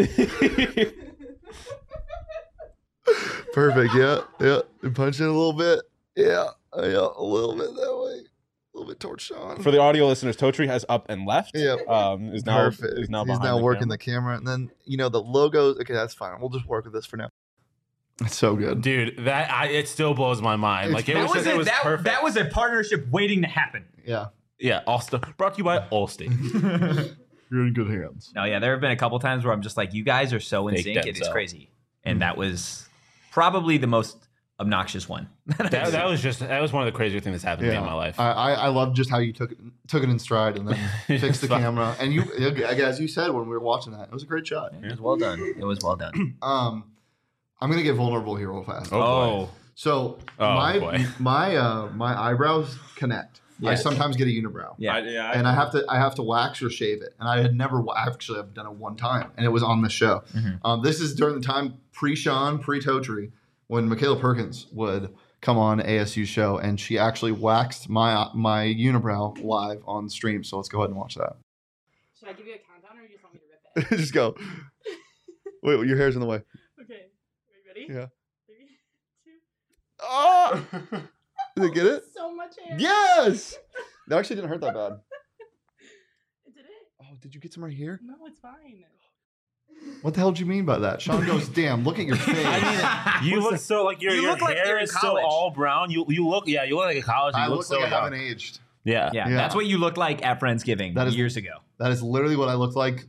Perfect. Yeah, yeah. And punch in a little bit. Yeah, uh, yeah, a little bit that way. A little bit towards Sean. For the audio listeners, Totri has up and left. Yeah. Um, is now Perfect. is now He's behind now the working camera. the camera, and then you know the logos. Okay, that's fine. We'll just work with this for now. It's so good. Dude, that I, it still blows my mind. It's- Like it That was, was, just, it a, was that, perfect. that was a partnership waiting to happen. Yeah, yeah. Allstate brought to you by Allstate. you're in good hands. No, yeah, there have been a couple times where I'm just like, you guys are so in Fake sync, it is Denzel. crazy. And that was probably the most obnoxious one. that, that was just that was one of the crazier things that's happened to me in my life. I, I I love just how you took it took it in stride and then fixed the Fine. camera. And you, as you said when we were watching that, it was a great shot. It was well done. It was well done. Um, I'm gonna get vulnerable here real fast. Oh, boy. So Oh, my boy. my uh my eyebrows connect. I Yes. sometimes get a unibrow. Yeah. I, yeah, And I have to I have to wax or shave it, and I had never wa- actually I've done it one time, and it was on the show. Mhm. Um, this is during the time pre Sean pre Totri when Michaela Perkins would come on A S U show, and she actually waxed my my unibrow live on stream. So let's go ahead and watch that. Should I give you a countdown or you just want me to rip it? Just go. Wait, your hair's in the way. Okay. Are you ready? Yeah. Three, two. Oh! Did it get it? So much hair. Yes. That actually didn't hurt that bad. Did it? Oh, did you get some right here? No, it's fine. What the hell do you mean by that? Sean goes, "Damn, look at your face." I mean, you look so like your, You your look like hair you're in is still college. all brown. You you look yeah you look like a college. You I look, look so like I young. haven't aged. Yeah. Yeah, Yeah. that's what you looked like at Friendsgiving That is- years ago. That is literally what I looked like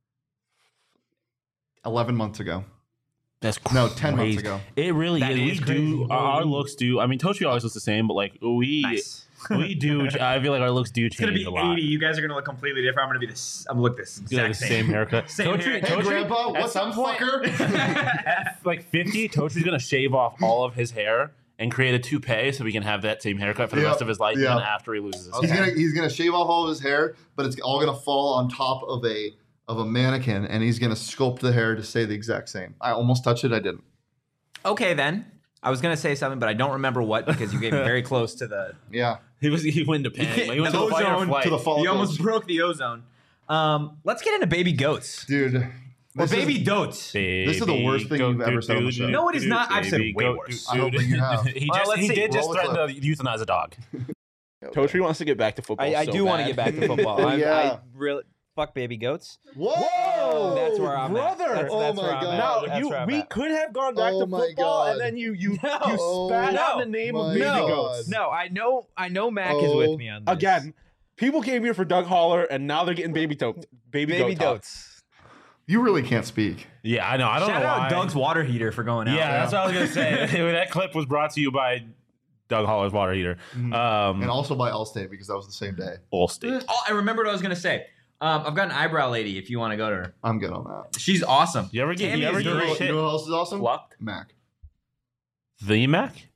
eleven months ago. That's No, ten months crazy. ago. It really That is. is We crazy. do our looks do. I mean, Totri always looks the same, but like we Nice. we do. I feel like our looks do It's gonna change be a lot. eighty. You guys are gonna look completely different. I'm gonna be this. I'm gonna look this You have exact the same haircut. Same Totri- hair. Hey, Totri- Grandpa, at what's some up, point- fucker? At like fifty, Tochi's gonna shave off all of his hair and create a toupee so we can have that same haircut for the Yeah, rest of his life, yeah. even after he loses his He's hair. gonna he's gonna shave off all of his hair, but it's all gonna fall on top of a of a mannequin, and he's gonna sculpt the hair to stay the exact same. I almost touched it, I didn't. Okay, then. I was gonna say something, but I don't remember what because you came very close to the Yeah, He was he went into panic. Like, he went the to the fight or ozone, flight. to the You follicles. almost broke the ozone. Um, let's get into baby goats dude. or This is- baby dotes. This is the worst thing you've ever said on the show. No, it is not. I've said way Goat, worse. I don't think you have. He, Well, just, let's he see. did just Roll the threaten to euthanize a dog. Okay. wants to get back to football. I, I so do want to bad. get back to football. I'm, Yeah. I really fuck baby goats. Whoa, That's where I'm brother. at. That's, Oh that's my where I'm God. at. No, That's you, where I'm we at. could have gone back Oh to my football, God. and then you you, No. you spat No. out the name of My baby No. goats. No, I know. I know. Mac is Oh. with me on this. Again, people came here for Doug Holler, and now they're getting baby to- baby, baby goat talk. goats. You really can't speak. Yeah, I know. I don't Shout know out why. Doug's water heater for going out. Yeah, that's what I was gonna say. That clip was brought to you by Doug Holler's water heater. Mhm. Um, And also by Allstate because that was the same day. Allstate. Oh, I remembered what I was gonna say. Um, I've got an eyebrow lady. If you want to go to her, I'm good on that. she's awesome. You ever get Tammy you ever is get You know, great. what- you shit know what else is awesome? plucked? Mac. The Mac?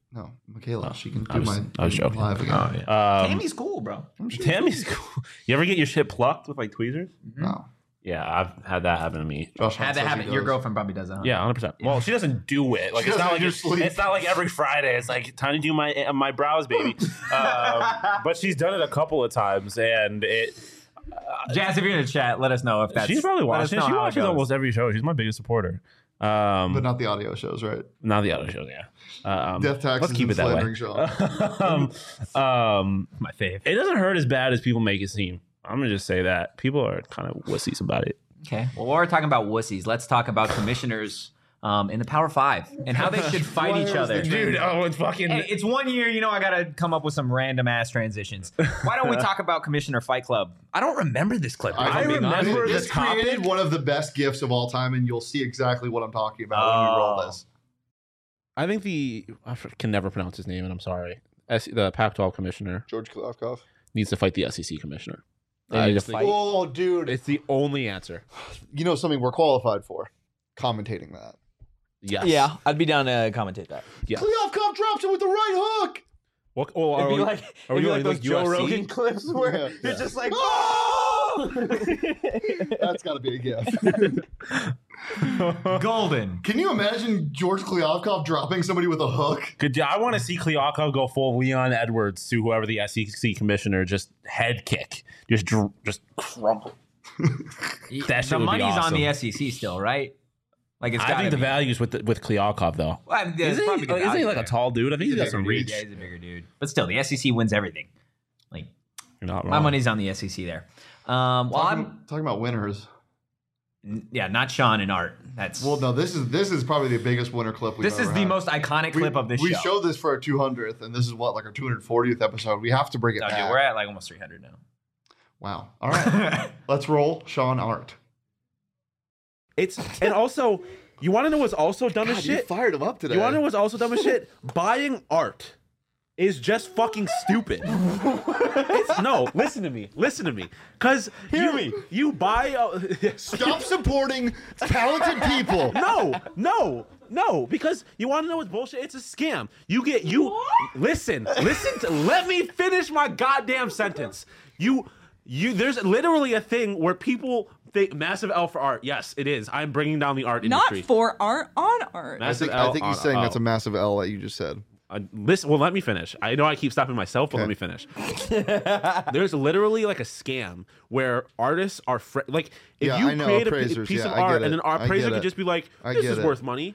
No, Michaela. Oh, she can I do was- my I was joking. live again. Oh, yeah. Um, Tammy's cool, bro. Tammy's cool. You ever get your shit plucked with like tweezers? No. Yeah, I've had that happen to me. Josh Had that says he happen. Your does. girlfriend probably does that. Huh? Yeah, one hundred percent. Well, she doesn't do it. Like She it's not doesn't like do it's, sleep. it's not like every Friday. It's like time to do my uh, my brows, baby. um, but she's done it a couple of times, and it. Jazz, if you're in the chat, let us know if that's. She's probably let us watching. know She how it watches goes. almost every show. She's my biggest supporter. Um, But not the audio shows, right? not the other shows. Yeah. Um, Death taxes let's keep and it that way. slandering Sean. um, um, My fave. it doesn't hurt as bad as people make it seem. I'm gonna just say that people are kind of wussies about it. Okay. Well, while we're talking about wussies, let's talk about commissioners um, in the Power Five and how they should fight each other. Dude, oh, it's fucking. Hey, it's one year, you know, I got to come up with some random ass transitions. Why don't we talk about Commissioner Fight Club? I don't remember this clip. if I I'm being honest remember with you. This created one of the best gifs of all time, and you'll see exactly what I'm talking about when we roll Oh. this. I think the I can never pronounce his name, and I'm sorry. S- the Pac twelve commissioner George Klavkov. needs to fight the S E C commissioner. They I need to just think fight. Oh, dude. It's the only answer. You know something we're qualified for? Commentating that. Yes. Yeah, I'd be down to commentate that. Yes. Klavkov drops it with the right hook. What? Oh, are It'd be we, like, are we it'd be doing like those like Joe U F C? Rogan clips where Yeah. you're Yeah. just like, That's got to be a gift. Golden. Can you imagine George Klyovkov dropping somebody with a hook? Good. I want to see Kliakov go full Leon Edwards to whoever the S E C commissioner, just head kick, just dr- just crumple. That shit the would be money's on awesome. the S E C still, right? Like it's I gotta think the be. value's with the, with Kliakov though. Well, I mean, there's Isn't probably he, good isn't he value like there. a tall dude? I think he's got a some bigger reach. Yeah, he's a bigger dude. But still, the S E C wins everything. Like You're not wrong. my money's on the S E C there. Um, well, talking, I'm talking about winners. n- yeah, not Sean and Art. That's Well, no, this is this is probably the biggest winner clip we've this ever is the had. most iconic We- clip of this we show. showed this for our two hundredth, and this is what, like our two hundred fortieth episode. We have to bring it No, dude, back. we're at like almost three hundred now. Wow. All right. Let's roll Sean Art. It's and also you want to know what's also dumb as God, you shit. fired him up today. You want to know what's also dumb as shit? Buying art is just fucking stupid. It's, no, listen to me. Listen to me. Cause Hear you, me. You buy. A, Stop supporting talented people. no, no, no. Because you want to know what's bullshit? It's a scam. You get you. Listen, listen. To, let me finish my goddamn sentence. You. You, there's literally a thing where people think massive L for art. Yes, it is. I'm bringing down the art Not industry. for art, on art. I Massive think, L I think he's on- saying oh. that's a massive L that you just said. Uh, listen, well, let me finish. I know I keep stopping myself, but let me finish. There's literally like a scam where artists are fr- like, if Yeah, you I know, create a p- appraisers. piece Yeah, of I art get and it. an art I appraiser get could it. just be like, I "This get is it. worth money."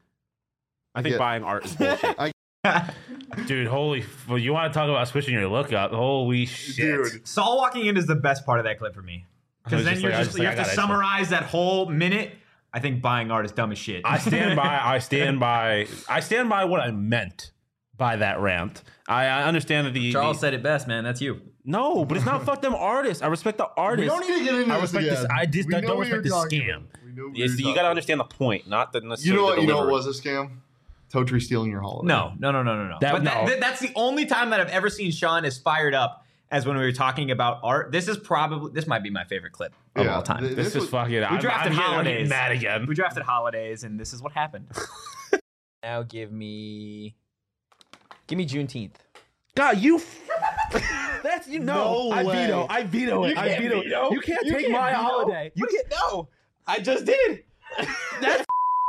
I think get- buying art is bullshit. I- Dude, holy! Well, you want to talk about switching your look up? Holy shit! Dude. Saul walking in is the best part of that clip for me. I Because was then just you're like- I was just, just you like, have I to gotta- summarize that whole minute. I think buying art is dumb as shit. I stand by. I stand by. I stand by what I meant by that rant. I, I understand that the Charles the, said it best, man. That's you. no, but it's not fuck them artists. I respect the We artists. don't need to get into I this respect this. again. I just We I know don't what you're respect the talking scam. about. We know what Yes, you're you talking got to about. understand the point, not the You necessarily know what? the You know what delivery. was a scam? Totri stealing your holiday. No, no, no, no, no, no. That- but that, no. that- that's the only time that I've ever seen Sean as fired up as when we were talking about art. This is probably this might be my favorite clip of Yeah, all time. th- This, This is was- fucking. we I'm, drafted I'm getting- I'm holidays. getting mad again. We drafted holidays, and this is what happened. Now give me, give me Juneteenth. God, you. f- That's you know. No I way. veto. I veto it. You I can't veto. veto. You can't You take can't my veto. holiday. You can't. No, I just did. That's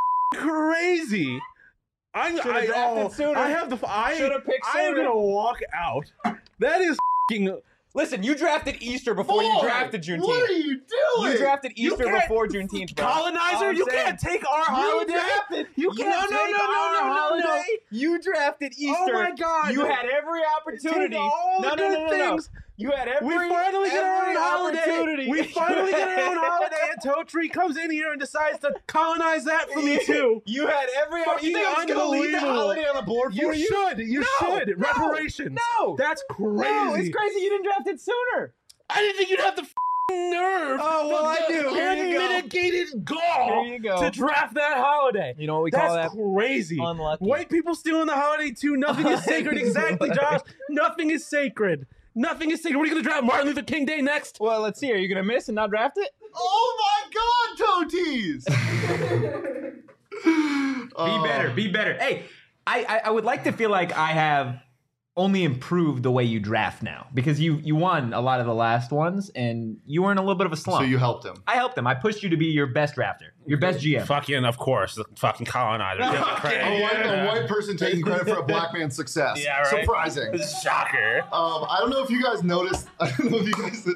crazy. I'm. Should've I, drafted oh, sooner. I have the. I. Should've picked I am sooner. gonna walk out. That is f***ing. Listen, you drafted Easter before you Boy, drafted Juneteenth. What are you doing? You drafted You Easter can't- before Juneteenth, bro. Colonizer, All I'm you saying- can't take our holiday. drafted- You No, can't no, take no, no, our no, no, holiday. no. You drafted Easter. Oh my God. You had every opportunity. Take all no, the no, no, good no, no. things. You had every. We finally get our every own holiday. opportunity. We finally get our own holiday, and Totri comes in here and decides to colonize that for me too. You had every. Fucking you think I was gonna leave the unbelievable. holiday on the board You for you? should. You No, should. no, Reparations. No. That's crazy. No, it's crazy you didn't draft it sooner. I didn't think you'd have the f***ing nerve. Oh, well, the, I do. Here you go. unmitigated gall Here you go. to draft that holiday. You know what we That's call that? crazy. Unlucky. White people stealing the holiday too. Nothing is sacred. Exactly, Josh. Nothing is sacred. Nothing is sacred. What are you going to draft Martin Luther King Day next? Well, let's see. Are you gonna miss and not draft it? Oh my God, Toties! Be better. Be better. Hey, I, I I would like to feel like I have only improved the way you draft now because you you won a lot of the last ones and you were in a little bit of a slump. So you helped him. I helped him. I pushed you to be your best drafter, your best G M. Fucking, of course, the fucking colonizer. A white, a white person taking credit for a black man's success. Yeah, right. Surprising. Shocker. Um, I don't know if you guys noticed. I don't know if you guys.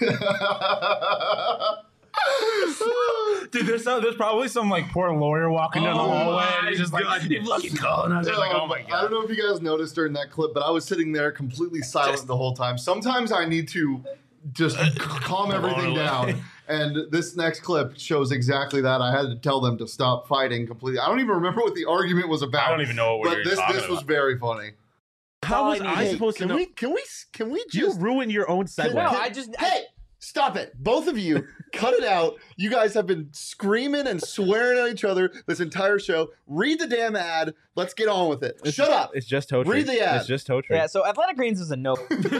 Dude, there's some, there's probably some like poor lawyer walking down the Oh hallway my and he's just like, goodness. fucking colonizer. Like, oh my I god. don't know if you guys noticed during that clip, but I was sitting there completely silent Just- the whole time. Sometimes I need to just calm everything down. And this next clip shows exactly that. I had to tell them to stop fighting completely. I don't even remember what the argument was about. I don't even know what But you're this talking this was about. very funny. How was I Hey, supposed to can know? we can we can we You just ruined your own segue. No, I just I- hey stop it, both of you, cut it out. You guys have been screaming and swearing at each other this entire show. Read the damn ad. Let's get on with it. Shut up. It's just toe Read the ad. It's just toe yeah. So Athletic Greens is a no.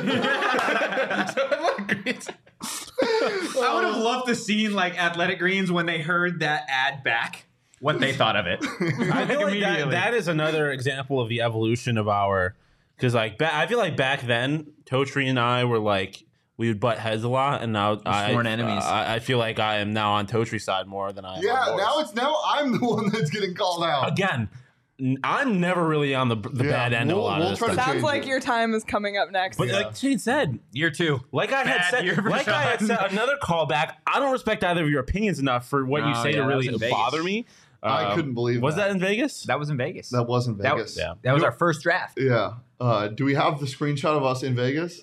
I would have loved to seen like Athletic Greens when they heard that ad back, what they thought of it. I feel like that, that is another example of the evolution of our, because like ba- I feel like back then, Totri and I were like we would butt heads a lot, and now I, sworn enemies. I, I feel like I am now on Totri's side more than I am. Yeah, on yours. now it's now I'm the one that's getting called out. Again, n- I'm never really on the the Yeah, bad end of a we'll- lot we'll of this try to stuff. change Sounds like it. your time is coming up next. But Yeah. like Shane said, Year two. like I had Bad said, year for like I had Sean. said, another callback. I don't respect either of your opinions enough for what you No, say yeah, to that really was in Vegas. bother me. I Um, couldn't believe Was that. that in Vegas? That was in Vegas. That wasn't That Vegas. was, Yeah. that was our first draft. Yeah. Uh, do we have the screenshot of us in Vegas?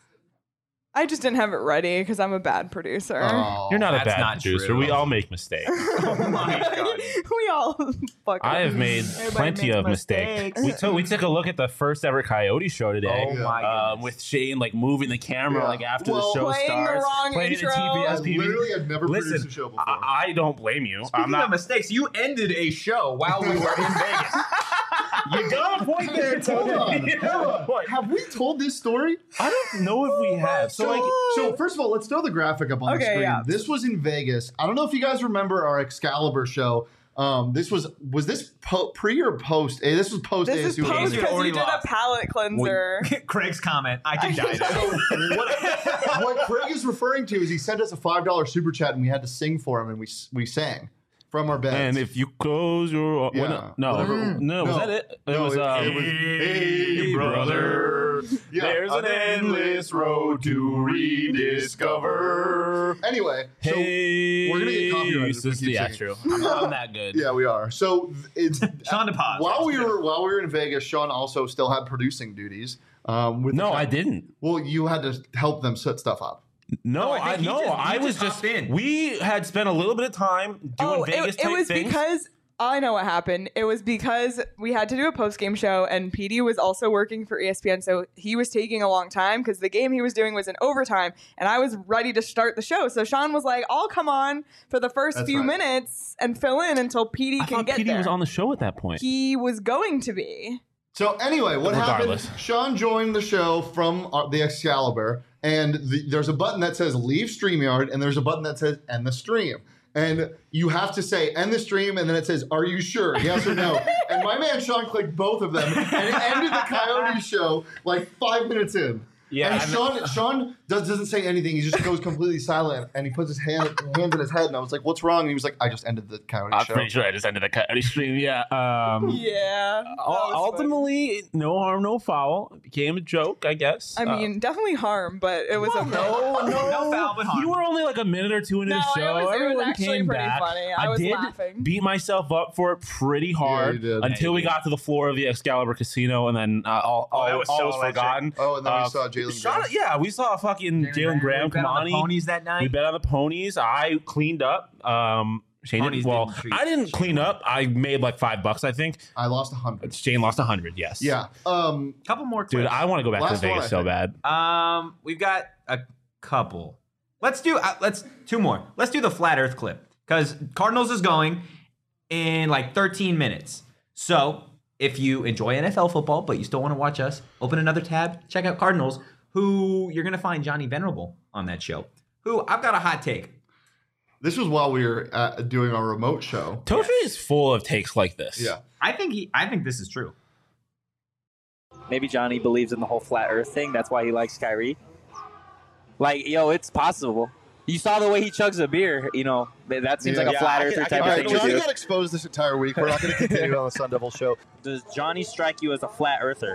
I just didn't have it ready because I'm a bad producer. Oh, You're not a That's bad not producer. true. We all make mistakes. Oh my god. we all fuck I up. have made Everybody plenty makes of mistakes. mistakes. We took we took a look at the first ever Coyote show today. Oh my um, goodness. with Shane like moving the camera Yeah. like after Well, the show Playing the starts, wrong playing intro. the T B I S P V. literally had never Listen, produced a show before. I, I don't blame you. Speaking I'm not. of mistakes, you ended a show while we were in Vegas. You got a point there, Tony. Hold on, You hold got a on. point. Have we told this story? I don't know if we have. So like, So first of all, let's throw the graphic up on the Okay, screen. yeah. This was in Vegas. I don't know if you guys remember our Excalibur show. Um, this was was this po- pre or post? Eh, this was post This A is S U. post You'd because already you did lost. a palate cleanser. Craig's comment, I can die So there. what, what Craig is referring to is he sent us a five dollar super chat and we had to sing for him and we we sang from our beds. and if you close your Yeah. what- no, Whatever- no, was no. that it? It No, was. it- um, it was, Hey, brother, Yeah. there's an endless road to rediscover. Anyway, so Hey, we're gonna get copyrighted if we keep yeah, singing. true. I'm, I'm that good. yeah, we are. So th- it's Sean DePaz. while we were while we were in Vegas, Sean also still had producing duties. Um, with No, the- I didn't. Well, you had to help them set stuff up. No, No, I I, think he no. just- he I was just just. hopped in. We had spent a little bit of time doing Oh, Vegas it, it type was things. because I know what happened. It was because we had to do a post game show, and P D was also working for E S P N, so he was taking a long time because the game he was doing was in overtime, and I was ready to start the show. So Sean was like, "I'll come on for the first That's few right. minutes and fill in until P D I can thought get P D there." was on the show at that point. He was going to be. So anyway, what Regardless. happened? Sean joined the show from uh, the Excalibur, and the, there's a button that says "Leave StreamYard," and there's a button that says "End the stream." And you have to say "End the stream," and then it says "Are you sure? Yes or no?" And my man Sean clicked both of them, and it ended the Coyote show like five minutes in. Yeah, and and- Sean Sean does, doesn't say anything. He just goes completely silent, and he puts his hand hands in his head. And I was like, "What's wrong?" And he was like, "I just ended the Coyote I'm show." pretty sure I just ended the Coyote stream. Yeah. Um, Yeah. that ul- was ultimately, no harm, no foul. It became a joke, I guess. fun. I mean, definitely harm, but it was Uh, okay. no, no, No foul, but harm. You were only like a minute or two into No, the it show. was- it was Everyone actually came pretty back. funny. I was did laughing. beat myself up for it pretty hard you did. until Yeah, we you got to the floor of the Excalibur Casino, and then uh, all, all, that was all so was electric. forgotten. Oh, and then Uh, we saw Jalen. Shot- Graham. yeah, we saw fucking Jalen Graham we bet come on on. the ponies that night. We bet on the ponies. I cleaned up. Um, Shane Ponies didn't, well, didn't treat I didn't Shane clean up. I made like five bucks, I think. I lost a hundred. Shane lost a hundred. Yes. Yeah. Um. Couple more Dude, clips. I want to go back Last to one, Vegas I so think. bad. Um, we've got a couple. Let's do uh, let's two more. Let's do the flat Earth clip because Cardinals is going in like thirteen minutes. So if you enjoy N F L football but you still want to watch us, open another tab, check out Cardinals. Who you're gonna find Johnny Venerable on that show. Who I've got a hot take. This was while we were uh doing our remote show. Totri is full of takes like this. Yeah. I think he. I think this is true. Maybe Johnny believes in the whole flat Earth thing. That's why he likes Kyrie. Like, yo, it's possible. You saw the way he chugs a beer. You know, that seems Yeah. like a Yeah, flat I earther can- I type can- of All thing right, to Johnny do. got exposed this entire week. We're not going to continue on the Sun Devil show. Does Johnny strike you as a flat earther?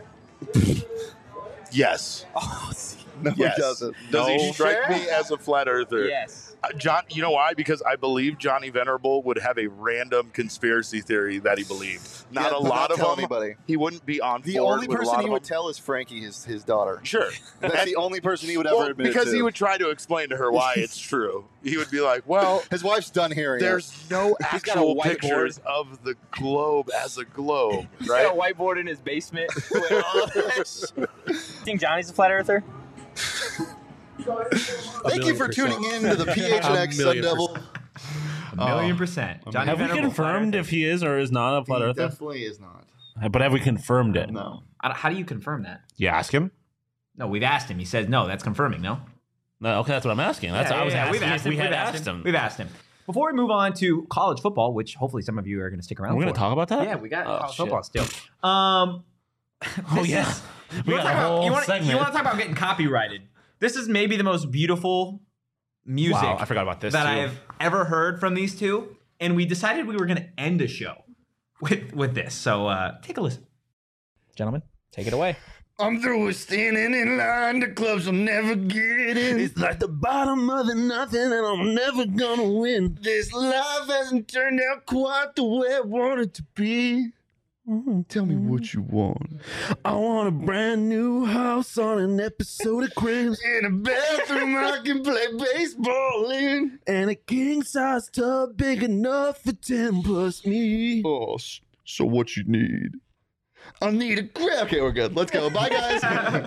Yes. Oh, see. No, yes. he doesn't. Does No. he strike Sure? me as a flat earther? Yes. Uh, John, you know why? Because I believe Johnny Venerable would have a random conspiracy theory that he believed. Not Yeah, a but lot not of tell them. anybody. He wouldn't be on The board only with a person lot he of would them. tell is Frankie, his his daughter. Sure. That's the only person he would ever Well, admit because to. he would try to explain to her why it's true. He would be like, well, his wife's done hearing there's it. no He's got a actual whiteboard. pictures of the globe as a globe, He's right? got a whiteboard in his basement. with all of that shit. You think Johnny's a flat earther? Thank you for tuning in to the P H N X Sun Devil. A million percent. Johnny have we Venerable, confirmed flat if he is or is not a flat He earther? definitely is not. But have we confirmed it? No. I don't- How do you confirm that? You ask him? No, we've asked him. He says no. That's confirming. No. No, okay, that's what I'm asking. That's Yeah, what I was yeah, yeah, asking. We've asked him. We had we've asked him. We've asked him. Before we move on to college football, which hopefully some of you are going to stick around. We're going for. to talk about that? Yeah, we got Oh, college shit. football still. Um, Oh, this yeah. is- We you got wanna a talk about- whole you wanna- segment. You want to talk about getting copyrighted? This is maybe the most beautiful music Wow, I forgot about this, that too. I have ever heard from these two, and we decided we were going to end the show with with this. So uh, take a listen, Gentlemen, take it away. I'm through with standing in line. The clubs will never get in. It's like the bottom of the nothing, and I'm never gonna win. This life hasn't turned out quite the way I want it to be. Tell me what you want. I want a brand new house on an episode of Cribs. In a bathroom I can play baseball in. And a king size tub big enough for ten plus me. Oh, s- so what you need? I need a grab. Okay, we're good. Let's go. Bye, guys.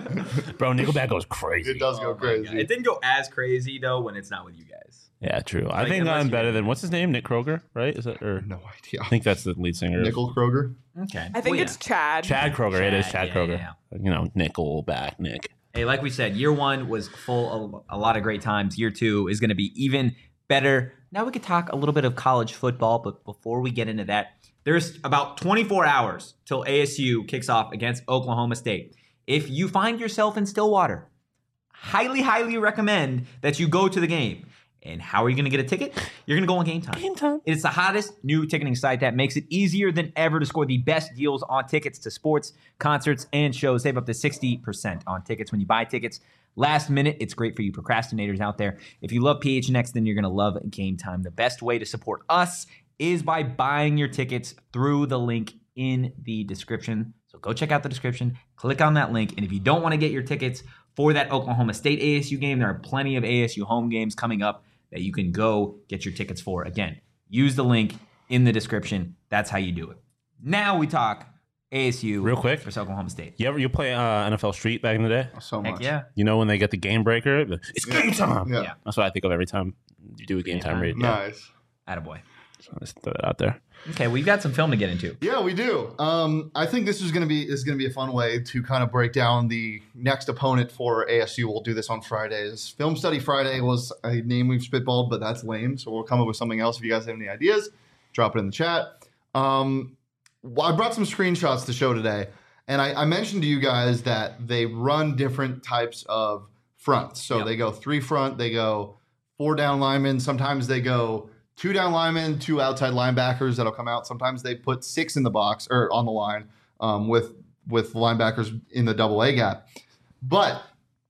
Bro, Nickelback goes crazy. It does go crazy. It didn't go as crazy though when it's not with you guys. Yeah, true. I Like, think unless I'm you- better than what's his name? Nick Kroger, right? Is that or No idea. I think that's the lead singer. Nickel Kroger. Okay, I think Well, it's Chad. Chad Kroger. it is Chad, Chad yeah, Kroger. yeah, You know, Nickelback, Nick. Hey, like we said, year one was full of a lot of great times. Year two is going to be even better. Now we could talk a little bit of college football, but before we get into that, there's about twenty-four hours till A S U kicks off against Oklahoma State. If you find yourself in Stillwater, highly, highly recommend that you go to the game. And how are you going to get a ticket? You're going to go on Game Time. Game Time. It's the hottest new ticketing site that makes it easier than ever to score the best deals on tickets to sports, concerts, and shows. Save up to sixty percent on tickets when you buy tickets last minute. It's great for you procrastinators out there. If you love P H N X, then you're going to love Game Time. The best way to support us is by buying your tickets through the link in the description. So go check out the description, click on that link, and if you don't want to get your tickets for that Oklahoma State A S U game, there are plenty of A S U home games coming up that you can go get your tickets for. Again, use the link in the description. That's how you do it. Now we talk A S U Real quick. versus Oklahoma State. You ever you play uh, N F L Street back in the day? So Heck much. yeah. You know when they get the game breaker? It's game time. Yeah. Yeah. That's what I think of every time you do a game, Game time time. read. Yeah. Nice. Attaboy. So let's throw that out there. Okay, we've got some film to get into. Yeah, we do. Um, I think this is going to be is going to be a fun way to kind of break down the next opponent for A S U. We'll do this on Fridays. Film Study Friday was a name we've spitballed, but that's lame. So we'll come up with something else. If you guys have any ideas, drop it in the chat. Um, well, I brought some screenshots to show today, and I, I mentioned to you guys that they run different types of fronts. So Yep. they go three front, they go four down linemen. Sometimes they go two down linemen, two outside linebackers that'll come out. Sometimes they put six in the box or on the line um, with with linebackers in the double A gap. But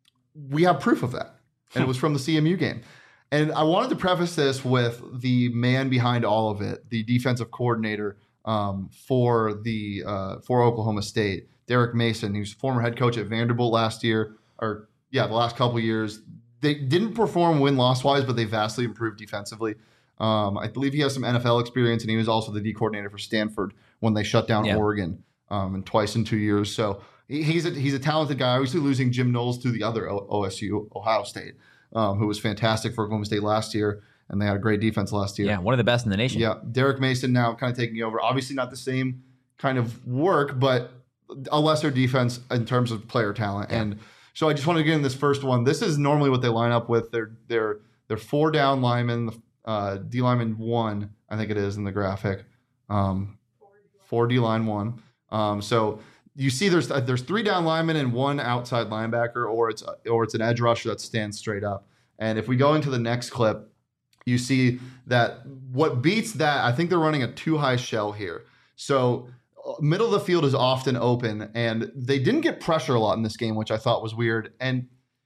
we have proof of that, and it was from the C M U game. And I wanted to preface this with the man behind all of it, the defensive coordinator um, for the uh, for Oklahoma State, Derek Mason. He was former head coach at Vanderbilt last year, or yeah, the last couple years. They didn't perform win-loss wise, but they vastly improved defensively. Um, I believe he has some N F L experience, and he was also the D coordinator for Stanford when they shut down Yeah. Oregon, um, and twice in two years. So he- he's a, he's a talented guy. Obviously, losing Jim Knowles to the other O- OSU, Ohio State, um, who was fantastic for Oklahoma State last year, and they had a great defense last year. Yeah, one of the best in the nation. Yeah, Derek Mason now kind of taking over. Obviously, not the same kind of work, but a lesser defense in terms of player talent. Yeah. And so I just want to get in this first one. This is normally what they line up with. They're they're they're four down linemen, uh, D lineman one, I think it is in the graphic, um, four D line one. Um, so you see there's uh, there's three down linemen and one outside linebacker, or it's or it's an edge rusher that stands straight up. And if we go into the next clip, you see that what beats that, I think they're running a too high shell here. So middle of the field is often open, and they didn't get pressure a lot in this game, which I thought was weird. And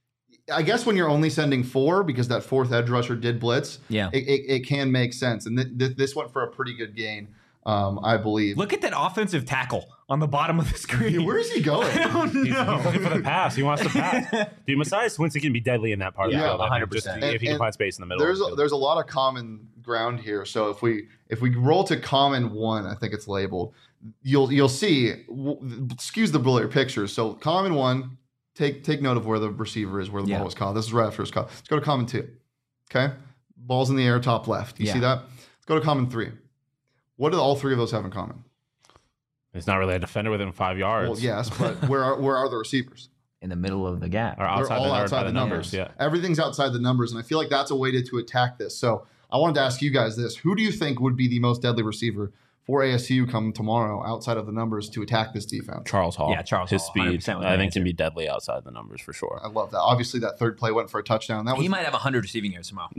I guess when you're only sending four, because that fourth edge rusher did blitz, yeah, it, it, it can make sense. And th- th- this went for a pretty good gain, um, I believe. Look at that offensive tackle on the bottom of the screen. Where is he going? I don't know. He's, he's looking for the pass. He wants to pass. Dude, Messiah Swinson can be deadly in that part Yeah, of the field. one hundred I think, just percent. if he can And- find space in the middle. There's of the a, field. there's a lot of common ground here. So if we if we roll to common one, I think it's labeled. You'll you'll see. w- Excuse the blurry pictures. So common one, take take note of where the receiver is, where the Yeah. ball was caught. This is right after it's caught. Let's go to common two. Okay, ball's in the air, top left. You Yeah. see that? Let's go to common three. What do all three of those have in common? It's not really a defender within five yards. Well, yes, but where are where are the receivers? In the middle of the gap. Or They're outside all the, outside by the, the numbers. Yeah. Everything's outside the numbers, and I feel like that's a way to, to attack this. So I wanted to ask you guys this: who do you think would be the most deadly receiver for A S U come tomorrow, outside of the numbers, to attack this defense? Charles Hall. Yeah, Charles His Hall, speed, one hundred percent with I my think, answer. can be deadly outside the numbers for sure. I love that. Obviously, that third play went for a touchdown. That was He might have one hundred receiving yards tomorrow.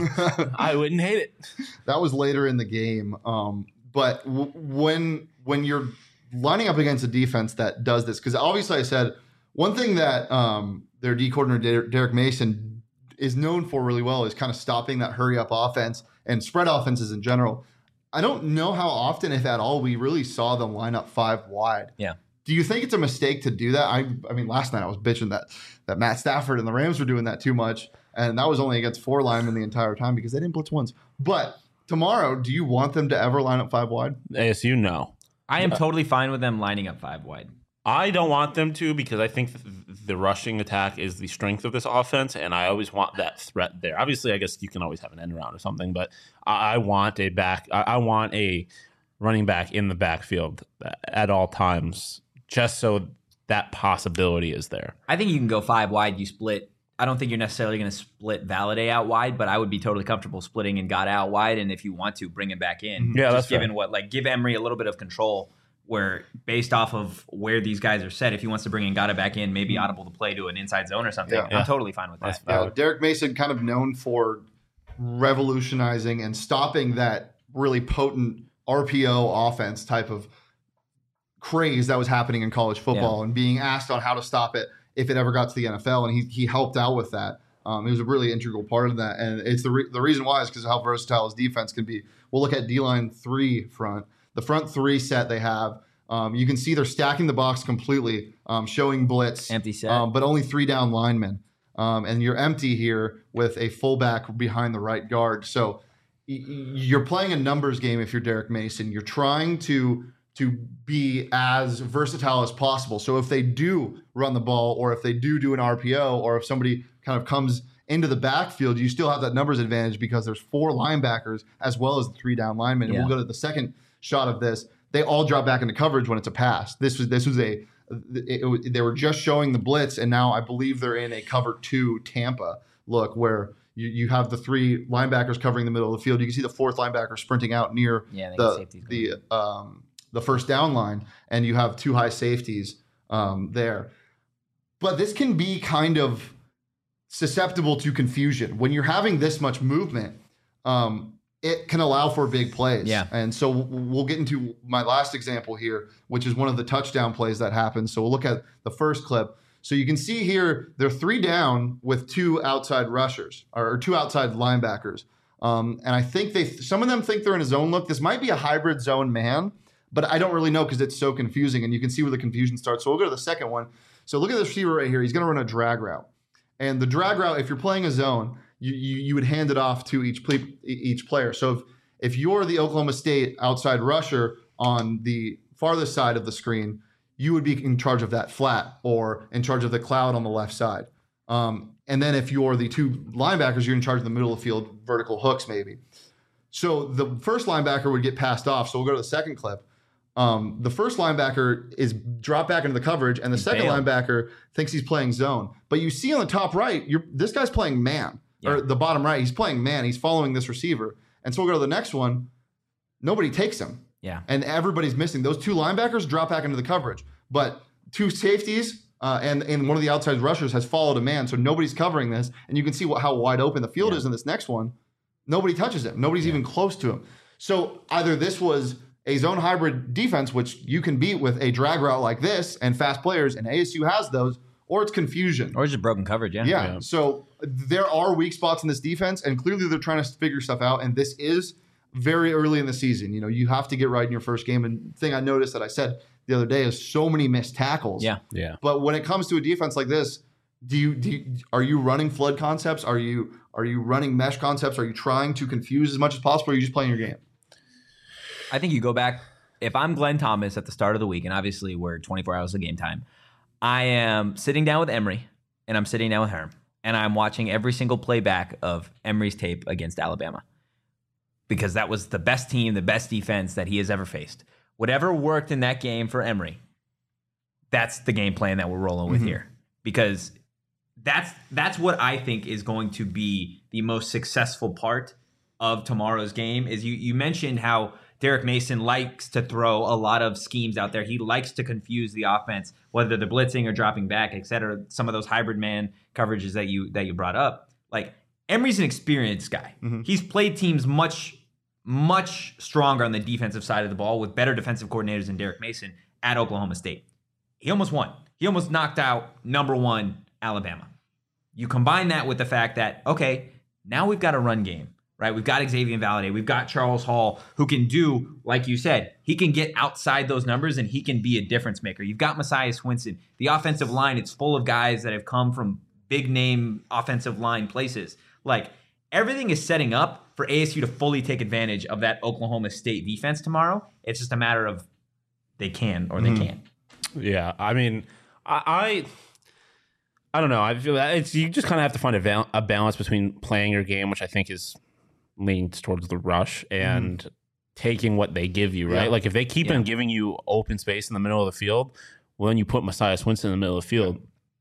I wouldn't hate it. that was later in the game. Um, but w- when when you're lining up against a defense that does this, because obviously I said one thing that um, their D coordinator Der- Derek Mason is known for really well is kind of stopping that hurry up offense and spread offenses in general. I don't know how often, if at all, we really saw them line up five wide. Yeah. Do you think it's a mistake to do that? I I mean, last night I was bitching that that Matt Stafford and the Rams were doing that too much, and that was only against four linemen the entire time because they didn't blitz once. But tomorrow, do you want them to ever line up five wide? A S U, no. I am totally fine with them lining up five wide. I don't want them to because I think th- the rushing attack is the strength of this offense, and I always want that threat there. Obviously, I guess you can always have an end around or something, but I, I want a back. I, I want a running back in the backfield at all times, just so that possibility is there. I think you can go five wide. You split. I don't think you're necessarily going to split Valladay out wide, but I would be totally comfortable splitting and got out wide. And if you want to, bring him back in. Yeah, just that's given fair. what like give Emery a little bit of control. Where based off of where these guys are set, if he wants to bring Ngata back in, maybe audible the play to an inside zone or something, Yeah. I'm Yeah. totally fine with that. That's Uh, valid. Derek Mason, kind of known for revolutionizing and stopping that really potent R P O offense type of craze that was happening in college football, and being asked on how to stop it if it ever got to the N F L, and he he helped out with that. Um, he was a really integral part of that, and it's the re- the reason why is because of how versatile his defense can be. We'll look at D-line three front, the front three set they have. Um, you can see they're stacking the box completely, um, showing blitz, Empty set. um, but only three down linemen, um, and you're empty here with a fullback behind the right guard. So y- y- you're playing a numbers game if you're Derek Mason. You're trying to to be as versatile as possible. So if they do run the ball, or if they do do an R P O, or if somebody kind of comes into the backfield, you still have that numbers advantage because there's four linebackers as well as the three down linemen. And Yeah. we'll go to the second shot of this. They all drop back into coverage when it's a pass. This was this was a it, it, they were just showing the blitz, and now I believe they're in a cover two Tampa look where you, you have the three linebackers covering the middle of the field. You can see the fourth linebacker sprinting out near Yeah, they got the safeties the um, the first down line, and you have two high safeties um, there. But this can be kind of susceptible to confusion when you're having this much movement. Um, it can allow for big plays. Yeah. And so w- we'll get into my last example here, which is one of the touchdown plays that happened. So we'll look at the first clip. So you can see here, they're three down with two outside rushers or two outside linebackers. Um, and I think they, some of them think they're in a zone look. This might be a hybrid zone man, but I don't really know because it's so confusing, and you can see where the confusion starts. So we'll go to the second one. So look at this receiver right here. He's going to run a drag route. And the drag route, if you're playing a zone, you you, you would hand it off to each ple- each player. So if, if you're the Oklahoma State outside rusher on the farthest side of the screen, you would be in charge of that flat or in charge of the cloud on the left side. Um, and then if you're the two linebackers, you're in charge of the middle of the field, vertical hooks maybe. So the first linebacker would get passed off. So we'll go to the second clip. Um, the first linebacker is dropped back into the coverage, and the second bailed. linebacker thinks he's playing zone. But you see on the top right, you're, this guy's playing man. Or the bottom right, he's playing man. He's following this receiver. And so we'll go to the next one. Nobody takes him. Yeah. And everybody's missing. Those two linebackers drop back into the coverage. but two safeties uh, and, and one of the outside rushers has followed a man, so nobody's covering this. And you can see what, how wide open the field Yeah. is in this next one. Nobody touches him. Nobody's yeah. even close to him. So either this was a zone hybrid defense, which you can beat with a drag route like this and fast players, and A S U has those, or it's confusion. Or just broken coverage, yeah. Yeah. yeah. So there are weak spots in this defense, and clearly they're trying to figure stuff out, and this is very early in the season. You know, you have to get right in your first game. And the thing I noticed that I said the other day is so many missed tackles. Yeah. Yeah. But when it comes to a defense like this, do you, do you are you running flood concepts? Are you are you running mesh concepts? Are you trying to confuse as much as possible, or are you just playing your game? I think you go back. If I'm Glenn Thomas at the start of the week, and obviously we're twenty-four hours of game time, I am sitting down with Emory, and I'm sitting down with Herm, and I'm watching every single playback of Emory's tape against Alabama, because that was the best team, the best defense that he has ever faced. Whatever worked in that game for Emory, that's the game plan that we're rolling with mm-hmm. here, because that's that's what I think is going to be the most successful part of tomorrow's game. Is you you mentioned how Derek Mason likes to throw a lot of schemes out there. He likes to confuse the offense, whether they're blitzing or dropping back, et cetera. Some of those hybrid man coverages that you that you brought up. Like, Emory's an experienced guy. Mm-hmm. He's played teams much, much stronger on the defensive side of the ball with better defensive coordinators than Derek Mason at Oklahoma State. He almost won. He almost knocked out number one Alabama. You combine that with the fact that, okay, now we've got a run game. Right, we've got Xavier Valade, we've got Charles Hall, who can do, like you said, he can get outside those numbers and he can be a difference maker. You've got Messiah Swinson. The offensive line, it's full of guys that have come from big name offensive line places. Like, everything is setting up for A S U to fully take advantage of that Oklahoma State defense tomorrow. It's just a matter of they can or they mm-hmm. can't. Yeah, I mean, I. I I don't know. I feel that it's you just kind of have to find a, val- a balance between playing your game, which I think is leans towards the rush, and mm. taking what they give you, right? Yeah. Like, if they keep yeah. on giving you open space in the middle of the field, well, then you put Messiah Swinson in the middle of the field.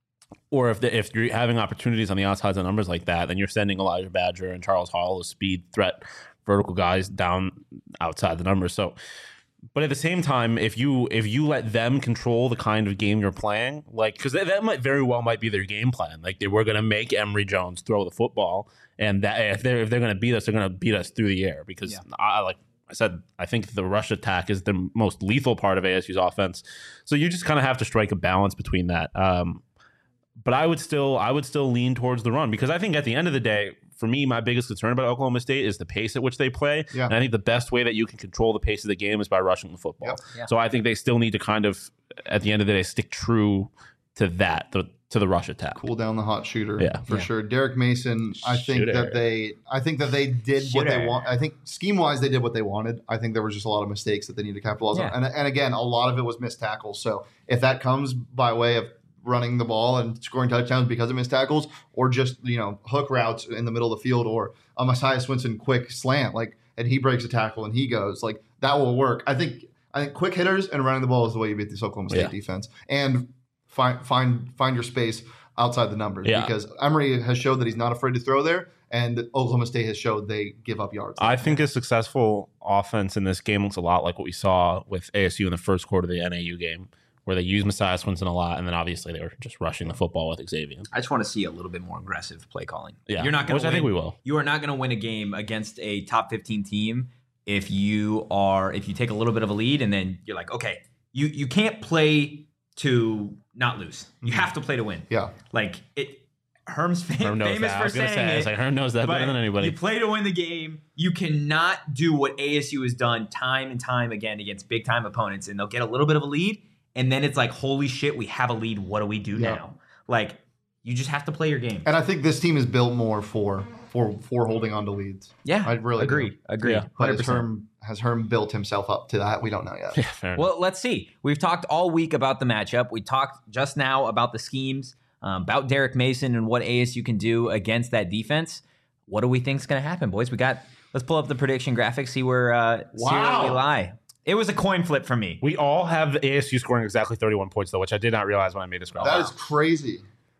Or if the, if you're having opportunities on the outsides of numbers like that, then you're sending Elijah Badger and Charles Hall as speed threat vertical guys down outside the numbers. So, but at the same time, if you if you let them control the kind of game you're playing, like, because that, that might very well might be their game plan. Like, they were going to make Emory Jones throw the football, and that if they're if they're going to beat us, they're going to beat us through the air. Because yeah. I like I said, I think the rush attack is the most lethal part of A S U's offense. So you just kind of have to strike a balance between that. Um, but I would still I would still lean towards the run, because I think at the end of the day, for me, my biggest concern about Oklahoma State is the pace at which they play. Yeah. And I think the best way that you can control the pace of the game is by rushing the football. Yep. Yeah. So I think they still need to kind of, at the end of the day, stick true to that, the, to the rush attack. Cool down the hot shooter, yeah. for yeah. sure. Derek Mason, I think Shooter. that they, I think that they did Shooter. what they want. I think scheme wise, they did what they wanted. I think there was just a lot of mistakes that they need to capitalize yeah. on. And, and again, a lot of it was missed tackles. So if that comes by way of running the ball and scoring touchdowns because of missed tackles, or just, you know, hook routes in the middle of the field, or a Messiah Swinson quick slant, like, and he breaks a tackle and he goes, like, that will work. I think I think quick hitters and running the ball is the way you beat this Oklahoma State yeah. defense, and find find find your space outside the numbers, yeah. because Emory has showed that he's not afraid to throw there, and Oklahoma State has showed they give up yards. I think a successful offense in this game looks a lot like what we saw with A S U in the first quarter of the N A U game, where they used Messiah Swinson a lot, and then obviously they were just rushing the football with Xavier. I just want to see a little bit more aggressive play calling. Yeah, you're not going to. I think we will. You are not going to win a game against a top fifteen team if you are if you take a little bit of a lead and then you're like, okay, you you can't play to not lose. You have to play to win. Yeah, like it. Herm's fam- Herm knows famous that. for I was gonna saying say, it. It's like Herm knows that better than anybody. You play to win the game. You cannot do what A S U has done time and time again against big time opponents, and they'll get a little bit of a lead. And then it's like, holy shit, we have a lead. What do we do yeah. now? Like, you just have to play your game. And I think this team is built more for for for holding on to leads. Yeah, I really agree. Do. Agree. Yeah. But has Herm, has Herm built himself up to that? We don't know yet. Yeah, fair well, let's see. We've talked all week about the matchup. We talked just now about the schemes, um, about Derek Mason and what A S U can do against that defense. What do we think is going to happen, boys? We got. Let's pull up the prediction graphics. See where, uh, wow. see where we lie. It was a coin flip for me. We all have A S U scoring exactly thirty-one points, though, which I did not realize when I made this graphic. That wow. is crazy.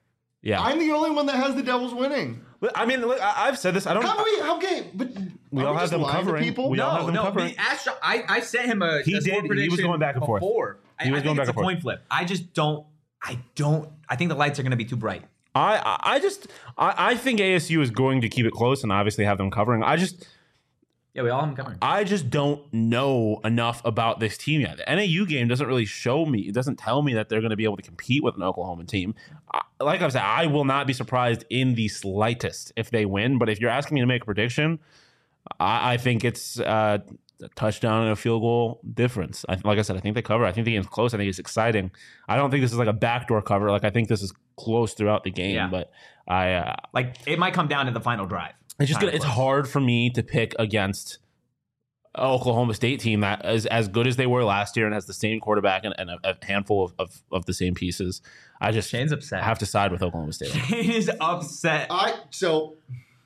Yeah. I'm the only one that has the Devils winning. I mean, look, I- I've said this. I don't. How we? How okay? But We are all we have just them lying to covering. people? We all No, have them no. covering. Me, Astro, I, I sent him a He a did. score He was prediction going back and forth. before. He I, was I going think back it's and a forth. coin flip. I just don't. I don't. I think the lights are going to be too bright. I I I just I, I think A S U is going to keep it close and obviously have them covering. I just Yeah, we all have them covering. I just don't know enough about this team yet. The N A U game doesn't really show me. It doesn't tell me that they're going to be able to compete with an Oklahoma team. I, like I said, I will not be surprised in the slightest if they win. But if you're asking me to make a prediction, I, I think it's uh, a touchdown and a field goal difference. I, like I said, I think they cover. I think the game's close. I think it's exciting. I don't think this is like a backdoor cover. Like I think this is close throughout the game. Yeah. But I uh, Like it might come down to the final drive. it's just Kinda gonna, it's close. hard for me to pick against an Oklahoma State team that is as good as they were last year and has the same quarterback and, and a, a handful of, of, of the same pieces. I just Shane's upset. have to side with Oklahoma State. Shane is upset. I so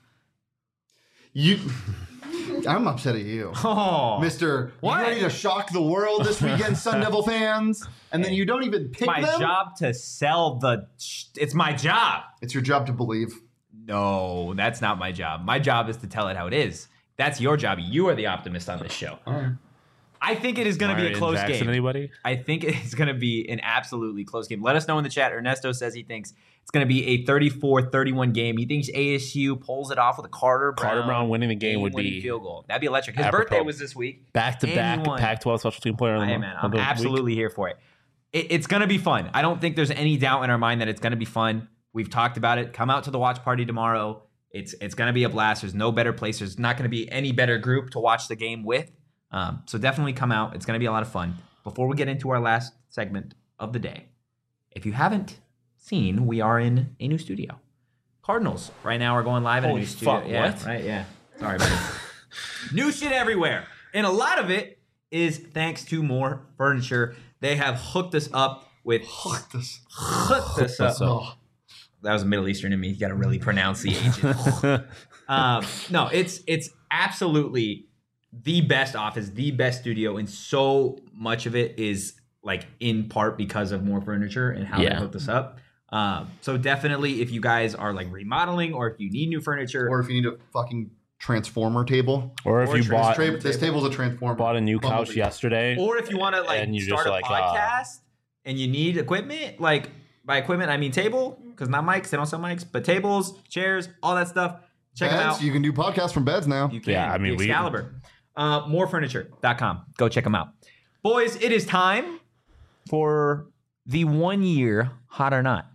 you. I'm upset at you, Oh, Mister What? You ready to shock the world this weekend, Sun Devil fans? And then you don't even pick my them. job to sell the. It's my job. It's your job to believe. No, that's not my job. My job is to tell it how it is. That's your job. You are the optimist on this show. I think it is going to be a Marion close Jackson, game. Anybody? I think it is going to be an absolutely close game. Let us know in the chat. Ernesto says he thinks it's going to be a thirty-four thirty-one game. He thinks A S U pulls it off with a Carter Brown. Carter Brown winning the game would game-winning be field goal. That'd be electric. His apropos. birthday was this week. back to And back he won. Pac twelve special team player. of the Hey month- man, of I'm the week. absolutely here for it. it. It's going to be fun. I don't think there's any doubt in our mind that it's going to be fun. We've talked about it. Come out to the watch party tomorrow. It's it's going to be a blast. There's no better place. There's not going to be any better group to watch the game with. Um, so definitely come out. It's going to be a lot of fun. Before we get into our last segment of the day, if you haven't seen, we are in a new studio. Cardinals right now are going live in a Holy new studio. fuck, Yeah, what? right? Yeah. Sorry, buddy. New shit everywhere. And a lot of it is thanks to More Furniture. They have hooked us up with Hooked us. hooked us us up. up. Oh, that was Middle Eastern in me. You got to really pronounce the agent. um, no, it's it's absolutely the best office, the best studio, and so much of it is like in part because of More Furniture and how Yeah. they hooked us up. Um, so definitely, if you guys are like remodeling or if you need new furniture, Or if you need a fucking transformer table. Or if Or you trans- bought Tra- this table's a transformer. bought a new Bumblebee. couch yesterday, or if you want to like And you're start just a like, uh, podcast and you need equipment, like by equipment I mean table, because not mics, they don't sell mics, but tables, chairs, all that stuff. Check them Beds, out. you can do podcasts from beds now. You can. Yeah, I mean, the we- Excalibur. Uh, more furniture dot com. Go check them out. Boys, it is time for the one year hot or not.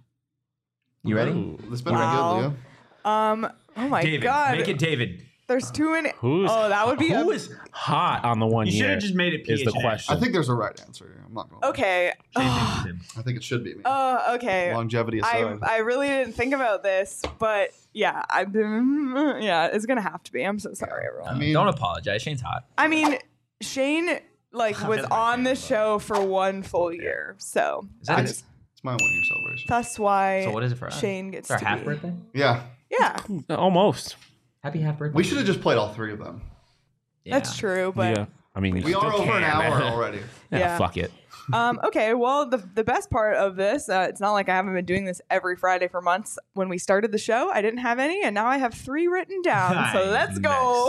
You ready? Ooh. This better Wow. be good, Leo. Um. Oh my David, god. make it David. There's two in it. Who's Oh, that would be who a- is hot on the one You should year? have just made it is the P H N. question. I think there's a right answer here. I'm not going to Okay. I think it should be me. Oh, okay. Longevity I aside. I really didn't think about this, but yeah, I yeah, it's gonna have to be. I'm so sorry, everyone. I mean, Don't apologize. Shane's hot. I mean, Shane like was That's my on the favorite, show for one full year, so Is that that's, it? it's my one year celebration. that's why So what is it for us? Shane gets It's our to half be. birthday? Yeah. Yeah, Almost. Happy half birthday. We should have just played all three of them. Yeah. that's true. But yeah. I mean, you We still are over an can. hour already. yeah, Yeah. Fuck it. um, okay, well, the the best part of this, uh, it's not like I haven't been doing this every Friday for months. When we started the show, I didn't have any, and now I have three written down. So let's go.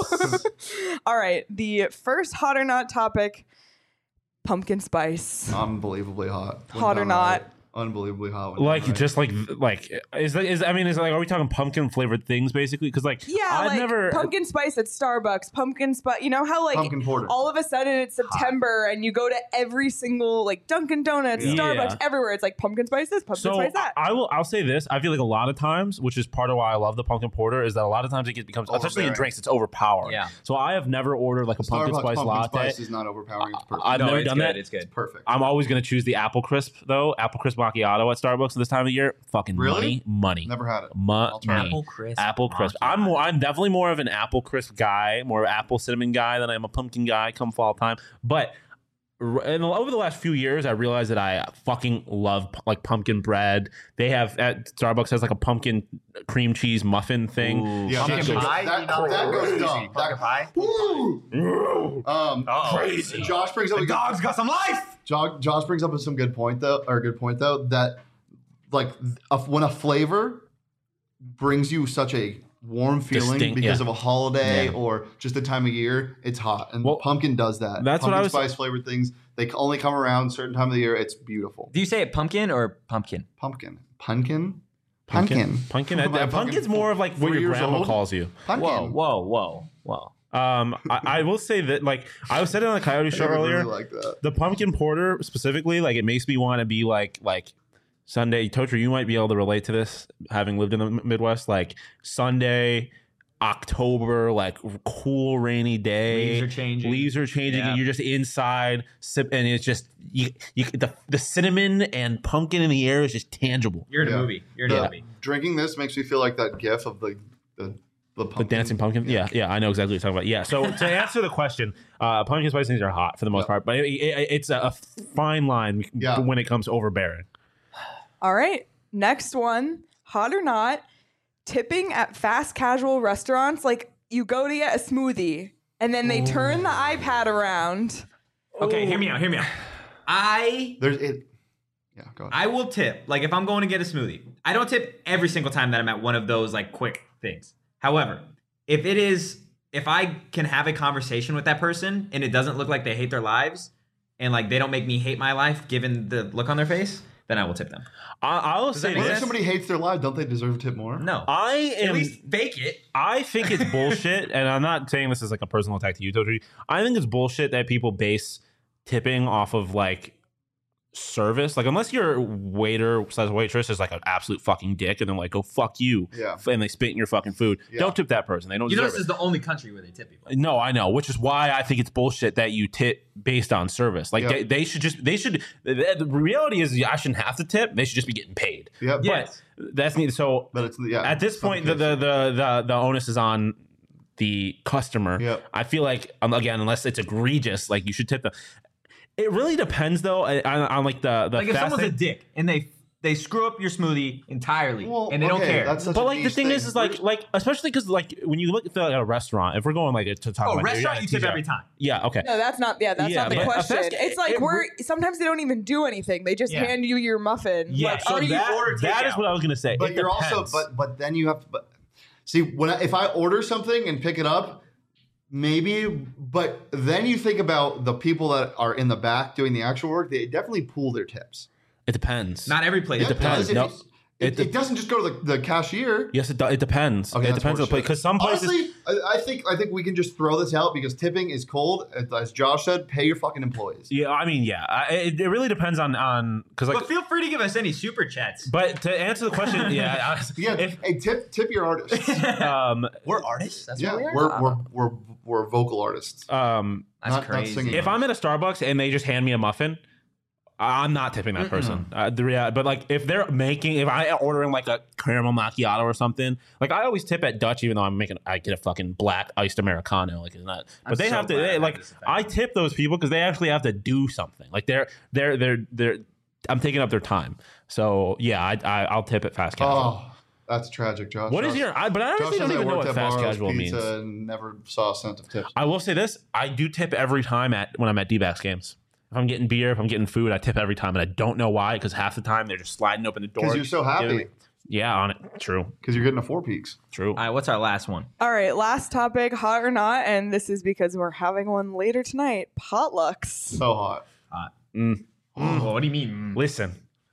All right, the first hot or not topic: pumpkin spice. Unbelievably hot. Went Hot or down not. right. Unbelievably hot. Went down Like right. just like like is that is I mean is like are we talking pumpkin flavored things basically? Because like Yeah, I've like never pumpkin spice at Starbucks, pumpkin spice. You know how like Pumpkin porter. all of a sudden it's September and you go to every single like Dunkin' Donuts, Yeah. Starbucks, Yeah. everywhere. It's like pumpkin spice this, pumpkin So spice that. I will. I'll say this. I feel like a lot of times, which is part of why I love the pumpkin porter, is that a lot of times it gets, becomes, especially in Overbearing. drinks, it's overpowering. Yeah. So I have never ordered like a pumpkin Starbucks spice pumpkin latte. spice is not overpowering. It's perfect. I've no, never it's done good. that. It's good. perfect. I'm always going to choose the apple crisp though. Apple crisp macchiato at Starbucks this time of year. Fucking Really? money, money. Never had it. Money. try it. Apple crisp. Apple crisp. macchiato. I'm more. I'm definitely more of an apple crisp guy, more apple cinnamon guy than I am a pumpkin guy. Come fall time, but r- and over the last few years, I realized that I fucking love pu- like pumpkin bread. They have at Starbucks has like a pumpkin cream cheese muffin thing. Ooh, Yeah, pumpkin that goes- pie. that- you know, that goes crazy. dumb. Pumpkin That- pie. Woo! Um, Crazy. Josh brings up The a good, dog's got some life. Josh, Josh brings up some good point though, or a good point though that like a, when a flavor brings you such a warm feeling Distinct, because yeah. of a holiday Yeah. or just the time of year. It's hot, and Well, pumpkin does that. that's what pumpkin I was- spice flavored things. They only come around certain time of the year. It's beautiful. Do you say it pumpkin or pumpkin? Pumpkin, pumpkin, Pumpkin. pumpkin, Pumpkin. I- My I- Pumpkin's more of like what three your years grandma old. calls you. Pumpkin. Whoa, whoa, whoa, whoa. Um, I, I will say that, like, I was saying on the Coyote show I really earlier, like that. the pumpkin porter specifically, like, it makes me want to be like, like Sunday. Tocher, you might be able to relate to this, having lived in the Midwest. Like Sunday, October, like cool rainy day, Leaves are changing. leaves are changing, Yeah. and you're just inside, sip, and it's just you, you, the the cinnamon and pumpkin in the air is just tangible. You're in Yeah. a movie. You're in The- a movie. Drinking this makes me feel like that gif of the the the, pumpkin. The dancing pumpkin, yeah, yeah, I know exactly what you're talking about. Yeah, so to answer the question, uh, pumpkin spice things are hot for the most Yeah. part, but it, it, it's a, a fine line Yeah. when it comes to overbearing. All right. Next one, hot or not, tipping at fast casual restaurants. Like you go to get a smoothie and then they turn the iPad around. Okay, hear me out. Hear me out. I There's it. Yeah, go ahead. I will tip. Like if I'm going to get a smoothie, I don't tip every single time that I'm at one of those like quick things. However, if it is, if I can have a conversation with that person and it doesn't look like they hate their lives and like they don't make me hate my life given the look on their face, then I will tip them. I, I will Does say that make Well, if this. sense? somebody hates their life, don't they deserve a tip more? No. I At am. least fake it. I think it's bullshit, and I'm not saying this as like a personal attack to you, Toji. I think it's bullshit that people base tipping off of like service. Like unless your waiter slash waitress is like an absolute fucking dick, and they're like, "Go fuck you," Yeah. and they spit in your fucking food. Yeah. Don't tip that person. They don't. You know deserve this is it. the only country where they tip people. No, I know, which is why I think it's bullshit that you tip based on service. Like Yeah. they, they should just they should. The, the reality is, I shouldn't have to tip. They should just be getting paid. Yeah, Yes. But that's neat. So but it's yeah. at this it's not point, the, case. the the the the onus is on the customer. Yep. I feel like um, again, unless it's egregious, like you should tip them. It really depends, though, on, on like the the Like if fast someone's a thing. dick and they they screw up your smoothie entirely Well, and they don't okay, care. That's such But a like the niche thing is, thing. is like like especially because like when you look at like, a restaurant, if we're going like to talk oh, about restaurant yeah, you tip T J. every time. Yeah. Okay. No, that's not. Yeah, that's Yeah, not the but a question. fast- It's like it- we're sometimes they don't even do anything. They just Yeah. hand you your muffin. Yeah. Like, so are you- that, order that is takeout? what I was gonna say. but It you're depends. also but but then you have to but see when I, if I order something and pick it up, maybe, but then you think about the people that are in the back doing the actual work. They definitely pool their tips. It depends. Not every place. Yeah, It depends. does. If No, you- It, it it doesn't just go to the, the cashier. Yes, it, do, it depends. Okay, it that's depends on the place bullshit. because some places. Honestly, I, I think I think we can just throw this out because tipping is cold. As Josh said, pay your fucking employees. Yeah, I mean, yeah, I, it, it really depends on on because like. But feel free to give us any super chats. But to answer the question, yeah, I- Yeah, if, hey, tip tip your artists. um, We're artists. That's yeah, what we are. we're, we're we're we're vocal artists. um, That's not- not crazy. singing. if I'm at a Starbucks and they just hand me a muffin, I'm not tipping that person. Uh, the rea- but like if they're making, if I ordering like a caramel macchiato or something, like I always tip at Dutch, even though I'm making, I get a fucking black iced americano, like it's not. But I'm they so have to, glad I they, have like this effect. I tip those people because they actually have to do something. Like they're they're they're they're. I'm taking up their time. So yeah, I, I I'll tip at fast casual. Oh, that's tragic, Josh. What is Josh, your? I, but I Josh honestly says don't I even know worked what at fast Barro's casual Pizza means. and never saw a cent of tips. I will say this: I do tip every time at when I'm at D-backs games. If I'm getting beer, if I'm getting food, I tip every time, and I don't know why. Because half the time they're just sliding open the door. Because you're so giving happy. me- Yeah, on it. True. Because you're getting a Four Peaks. True. All right, what's our last one? All right, last topic, hot or not, and this is because we're having one later tonight. Potlucks. So hot. Mm. Well, what do you mean? Listen.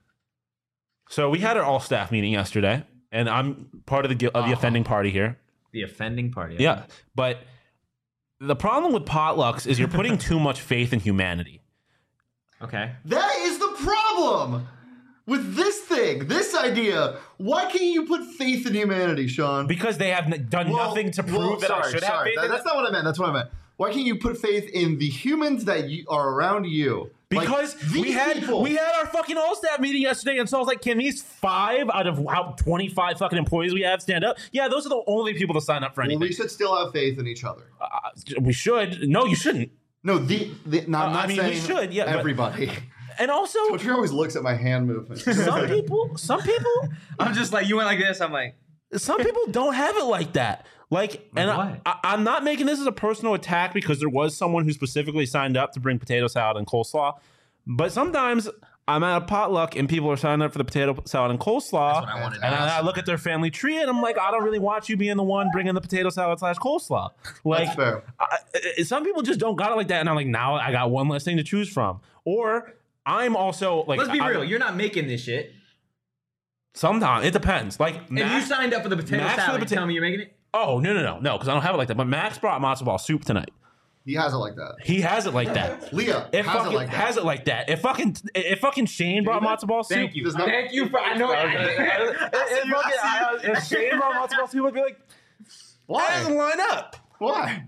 So we had our all staff meeting yesterday, and I'm part of the gui- of the Oh. offending party here. The offending party. Yeah, but the problem with potlucks is you're putting too much faith in humanity. Okay. That is the problem with this thing, this idea. Why can't you put faith in humanity, Sean? Because they have n- done Well, nothing to prove well, that I sorry, should have sorry. faith That- in That's them. not what I meant. That's what I meant. Why can't you put faith in the humans that you, are around you? Like, Because we these had people- we had our fucking all staff meeting yesterday, and so I was like, "Can these five out of how twenty-five fucking employees we have stand up?" Yeah, those are the only people to sign up for Well, anything. we should still have faith in each other. Uh, we should. No, you shouldn't. No, the, the no, I'm Uh, not I mean, saying we should, yeah, but- everybody. And also, Twitter always looks at my hand movement. some people, some people, I'm just like, you went like this. I'm like, some people don't have it like that. Like, and I, what? I, I'm not making this as a personal attack because there was someone who specifically signed up to bring potato salad and coleslaw. But sometimes I'm at a potluck and people are signing up for the potato salad and coleslaw. I wanted to And ask. I, I look at their family tree and I'm like, I don't really want you being the one bringing the potato salad slash coleslaw. Like, That's fair. I, I- some people just don't got it like that. And I'm like, now I got one less thing to choose from. Or I'm also like, Let's be I- real. You're not making this shit. Sometimes it depends. Like, If Max, you signed up for the potato Max for the salad, you pota- tell me you're making it? oh no no no no, because I don't have it like that. But Max brought matzo ball soup tonight. He has it like that. He has it like that. Leah It has fucking it like that. has it like that. If fucking if fucking Shane brought matzo ball soup, Thank you. Does not- Thank you for. I know. if, if, fucking- I- if Shane brought matzo ball soup, I'd be like, Why? that doesn't line up. Why?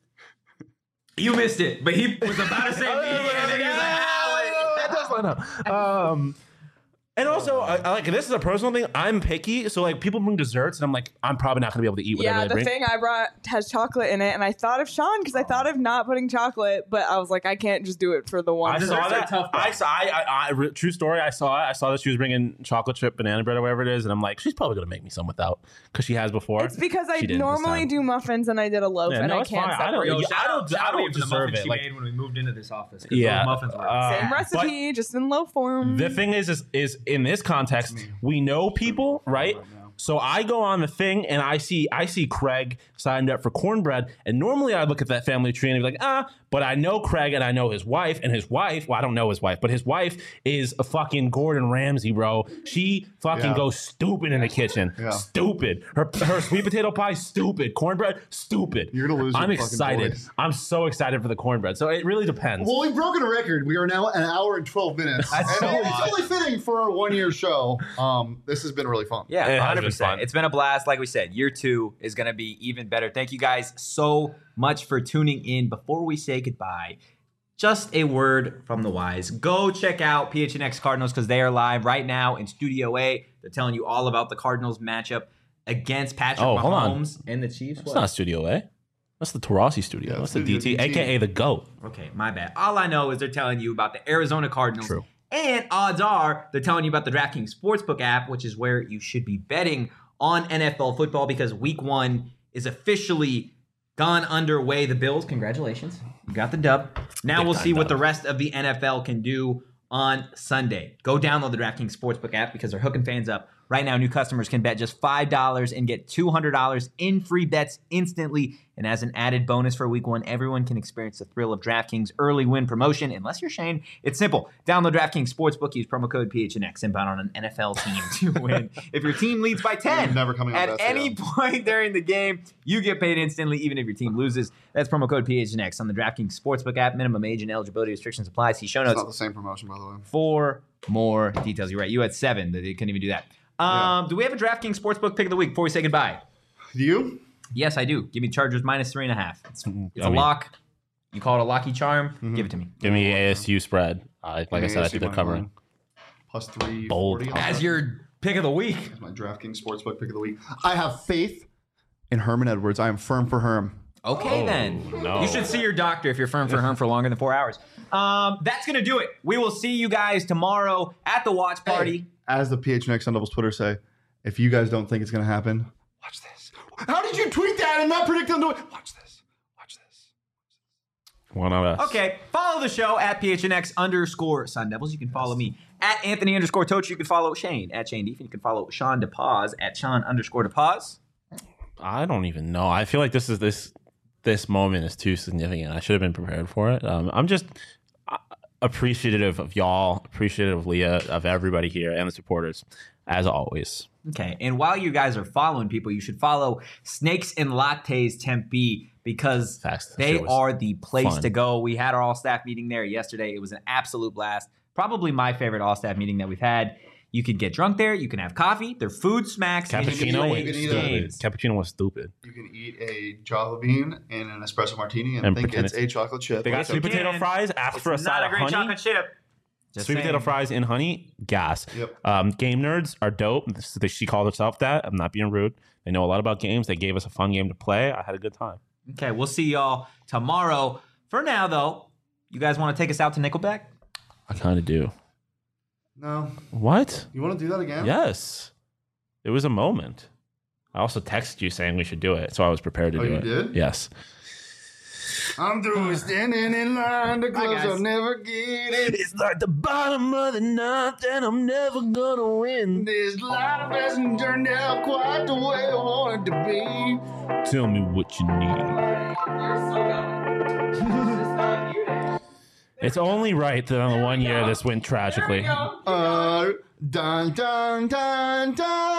You missed it, but he was about to say me, and then he was like, ah, wait. That does line up. Um, and also, I, I like this is a personal thing. I'm picky, so like people bring desserts, and I'm like, I'm probably not gonna be able to eat whatever Yeah, they the bring. thing I brought has chocolate in it, and I thought of Sean because I thought of not putting chocolate, but I was like, I can't just do it for the one. I Desserts saw are that. tough, though. I saw. I, I, I, re- true story. I saw it. I saw that she was bringing chocolate chip banana bread or whatever it is, and I'm like, she's probably gonna make me some without because she has before. It's because I She didn't this normally time. do muffins, and I did a loaf, Yeah, and no, I it's can't fine. I don't- separate. Yo, Yeah, shout I don't- out- shout I out don't even the deserve muffins it, she like- made when we moved into this office. 'cause Yeah, those muffins were uh, Same but- recipe, just in loaf form. The thing is, is, is in this context, we know people, right? So I go on the thing and I see I see Craig signed up for cornbread, and normally I look at that family tree and be like, ah, but I know Craig and I know his wife, and his wife, well, I don't know his wife, but his wife is a fucking Gordon Ramsay, bro. She fucking Yeah. goes stupid in the kitchen, Yeah. stupid. Her her sweet potato pie, stupid. Cornbread, stupid. You're gonna lose your I'm fucking excited. voice. I'm so excited for the cornbread. So it really depends. Well, we've broken a record. We are now an hour and twelve minutes. and so it's much. only fitting for our one year show. Um, this has been really fun. Yeah, It has one hundred been percent. fun. It's been a blast. Like we said, year two is going to be even better. Thank you guys so much for tuning in. Before we say goodbye, just a word from the wise. Go check out P H N X Cardinals because they are live right now in Studio A. They're telling you all about the Cardinals matchup against Patrick Oh, hold on. Mahomes and the Chiefs. That's What? not Studio A. That's the Tarasi Studio. Yeah, That's the Studio D T, D T. aka the GOAT. Okay, my bad. All I know is they're telling you about the Arizona Cardinals. True. And odds are they're telling you about the DraftKings Sportsbook app, which is where you should be betting on N F L football because week one is officially gone underway. The Bills, congratulations. You got the dub. Now Big we'll time see what dub. the rest of the N F L can do on Sunday. Go download the DraftKings Sportsbook app because they're hooking fans up. Right now, new customers can bet just five dollars and get two hundred dollars in free bets instantly. And as an added bonus for week one, everyone can experience the thrill of DraftKings early win promotion. Unless you're Shane, it's simple. Download DraftKings Sportsbook, use promo code P H N X, and bet on an N F L team to win. If your team leads by ten You're never coming on at best, any yeah. point during the game, you get paid instantly, even if your team loses. That's promo code P H N X on the DraftKings Sportsbook app. Minimum age and eligibility restrictions apply. See show It's notes not the same promotion, by the way. for more details. You're right. You had seven. They couldn't even do that. Um, Do we have a DraftKings Sportsbook pick of the week before we say goodbye? Do you? Yes, I do. Give me Chargers minus three and a half. It's, it's a Yummy. lock. You call it a locky charm. Mm-hmm. Give it to me. Give me A S U spread. Uh, like I said, I think they're covering. Plus three Bold. forty. As your pick of the week. That's my DraftKings Sportsbook pick of the week. I have faith in Herman Edwards. I am firm for Herm. Okay, Oh, then. no. You should see your doctor if you're firm for Herm for longer than four hours. Um, that's going to do it. We will see you guys tomorrow at the watch party. Hey, as the P H N X Sun Devils Twitter say, if you guys don't think it's going to happen, watch this. How did you tweet that and not predict them to it? Watch this. Watch this. One of us. Okay, follow the show at P H N X underscore Sun Devils. You can follow me at Anthony underscore Toach. You can follow Shane at Shane Deef. And you can follow Sean DePaz at Sean underscore DePaz. I don't even know. I feel like this is this this moment is too significant. I should have been prepared for it. Um, I'm just uh, appreciative of y'all, appreciative of Leah, of everybody here, and the supporters, as always. Okay, and while you guys are following people, you should follow Snakes and Lattes Tempe because Facts. That they shit was are the place fun. to go. We had our all-staff meeting there yesterday. It was an absolute blast. Probably my favorite all-staff meeting that we've had. You can get drunk there. You can have coffee. Their food smacks. and you can Cappuccino play was eat a- stupid. games. Cappuccino was stupid. You can eat a Java bean and an espresso martini and, And think pretend it's a chocolate chip. They got Yes, sweet you potato can. fries. Ask It's for a not side a of great honey. chocolate chip. Just Sweet potato saying. fries in honey, gas. Yep. Um, game nerds are dope. This- She called herself that. I'm not being rude. They know a lot about games. They gave us a fun game to play. I had a good time. Okay, we'll see y'all tomorrow. For now, though, you guys want to take us out to Nickelback? I kind of do. No. What? You want to do that again? Yes. It was a moment. I also texted you saying we should do it, so I was prepared to Oh, do you it. did? Yes. I'm through standing in line. The clubs guys. I'll never get it. It's like the bottom of the ninth, and I'm never gonna win. This life hasn't turned out quite the way I want it to be. Tell me what you need. It's only right that on the one year this went tragically. Uh, dun dun dun dun.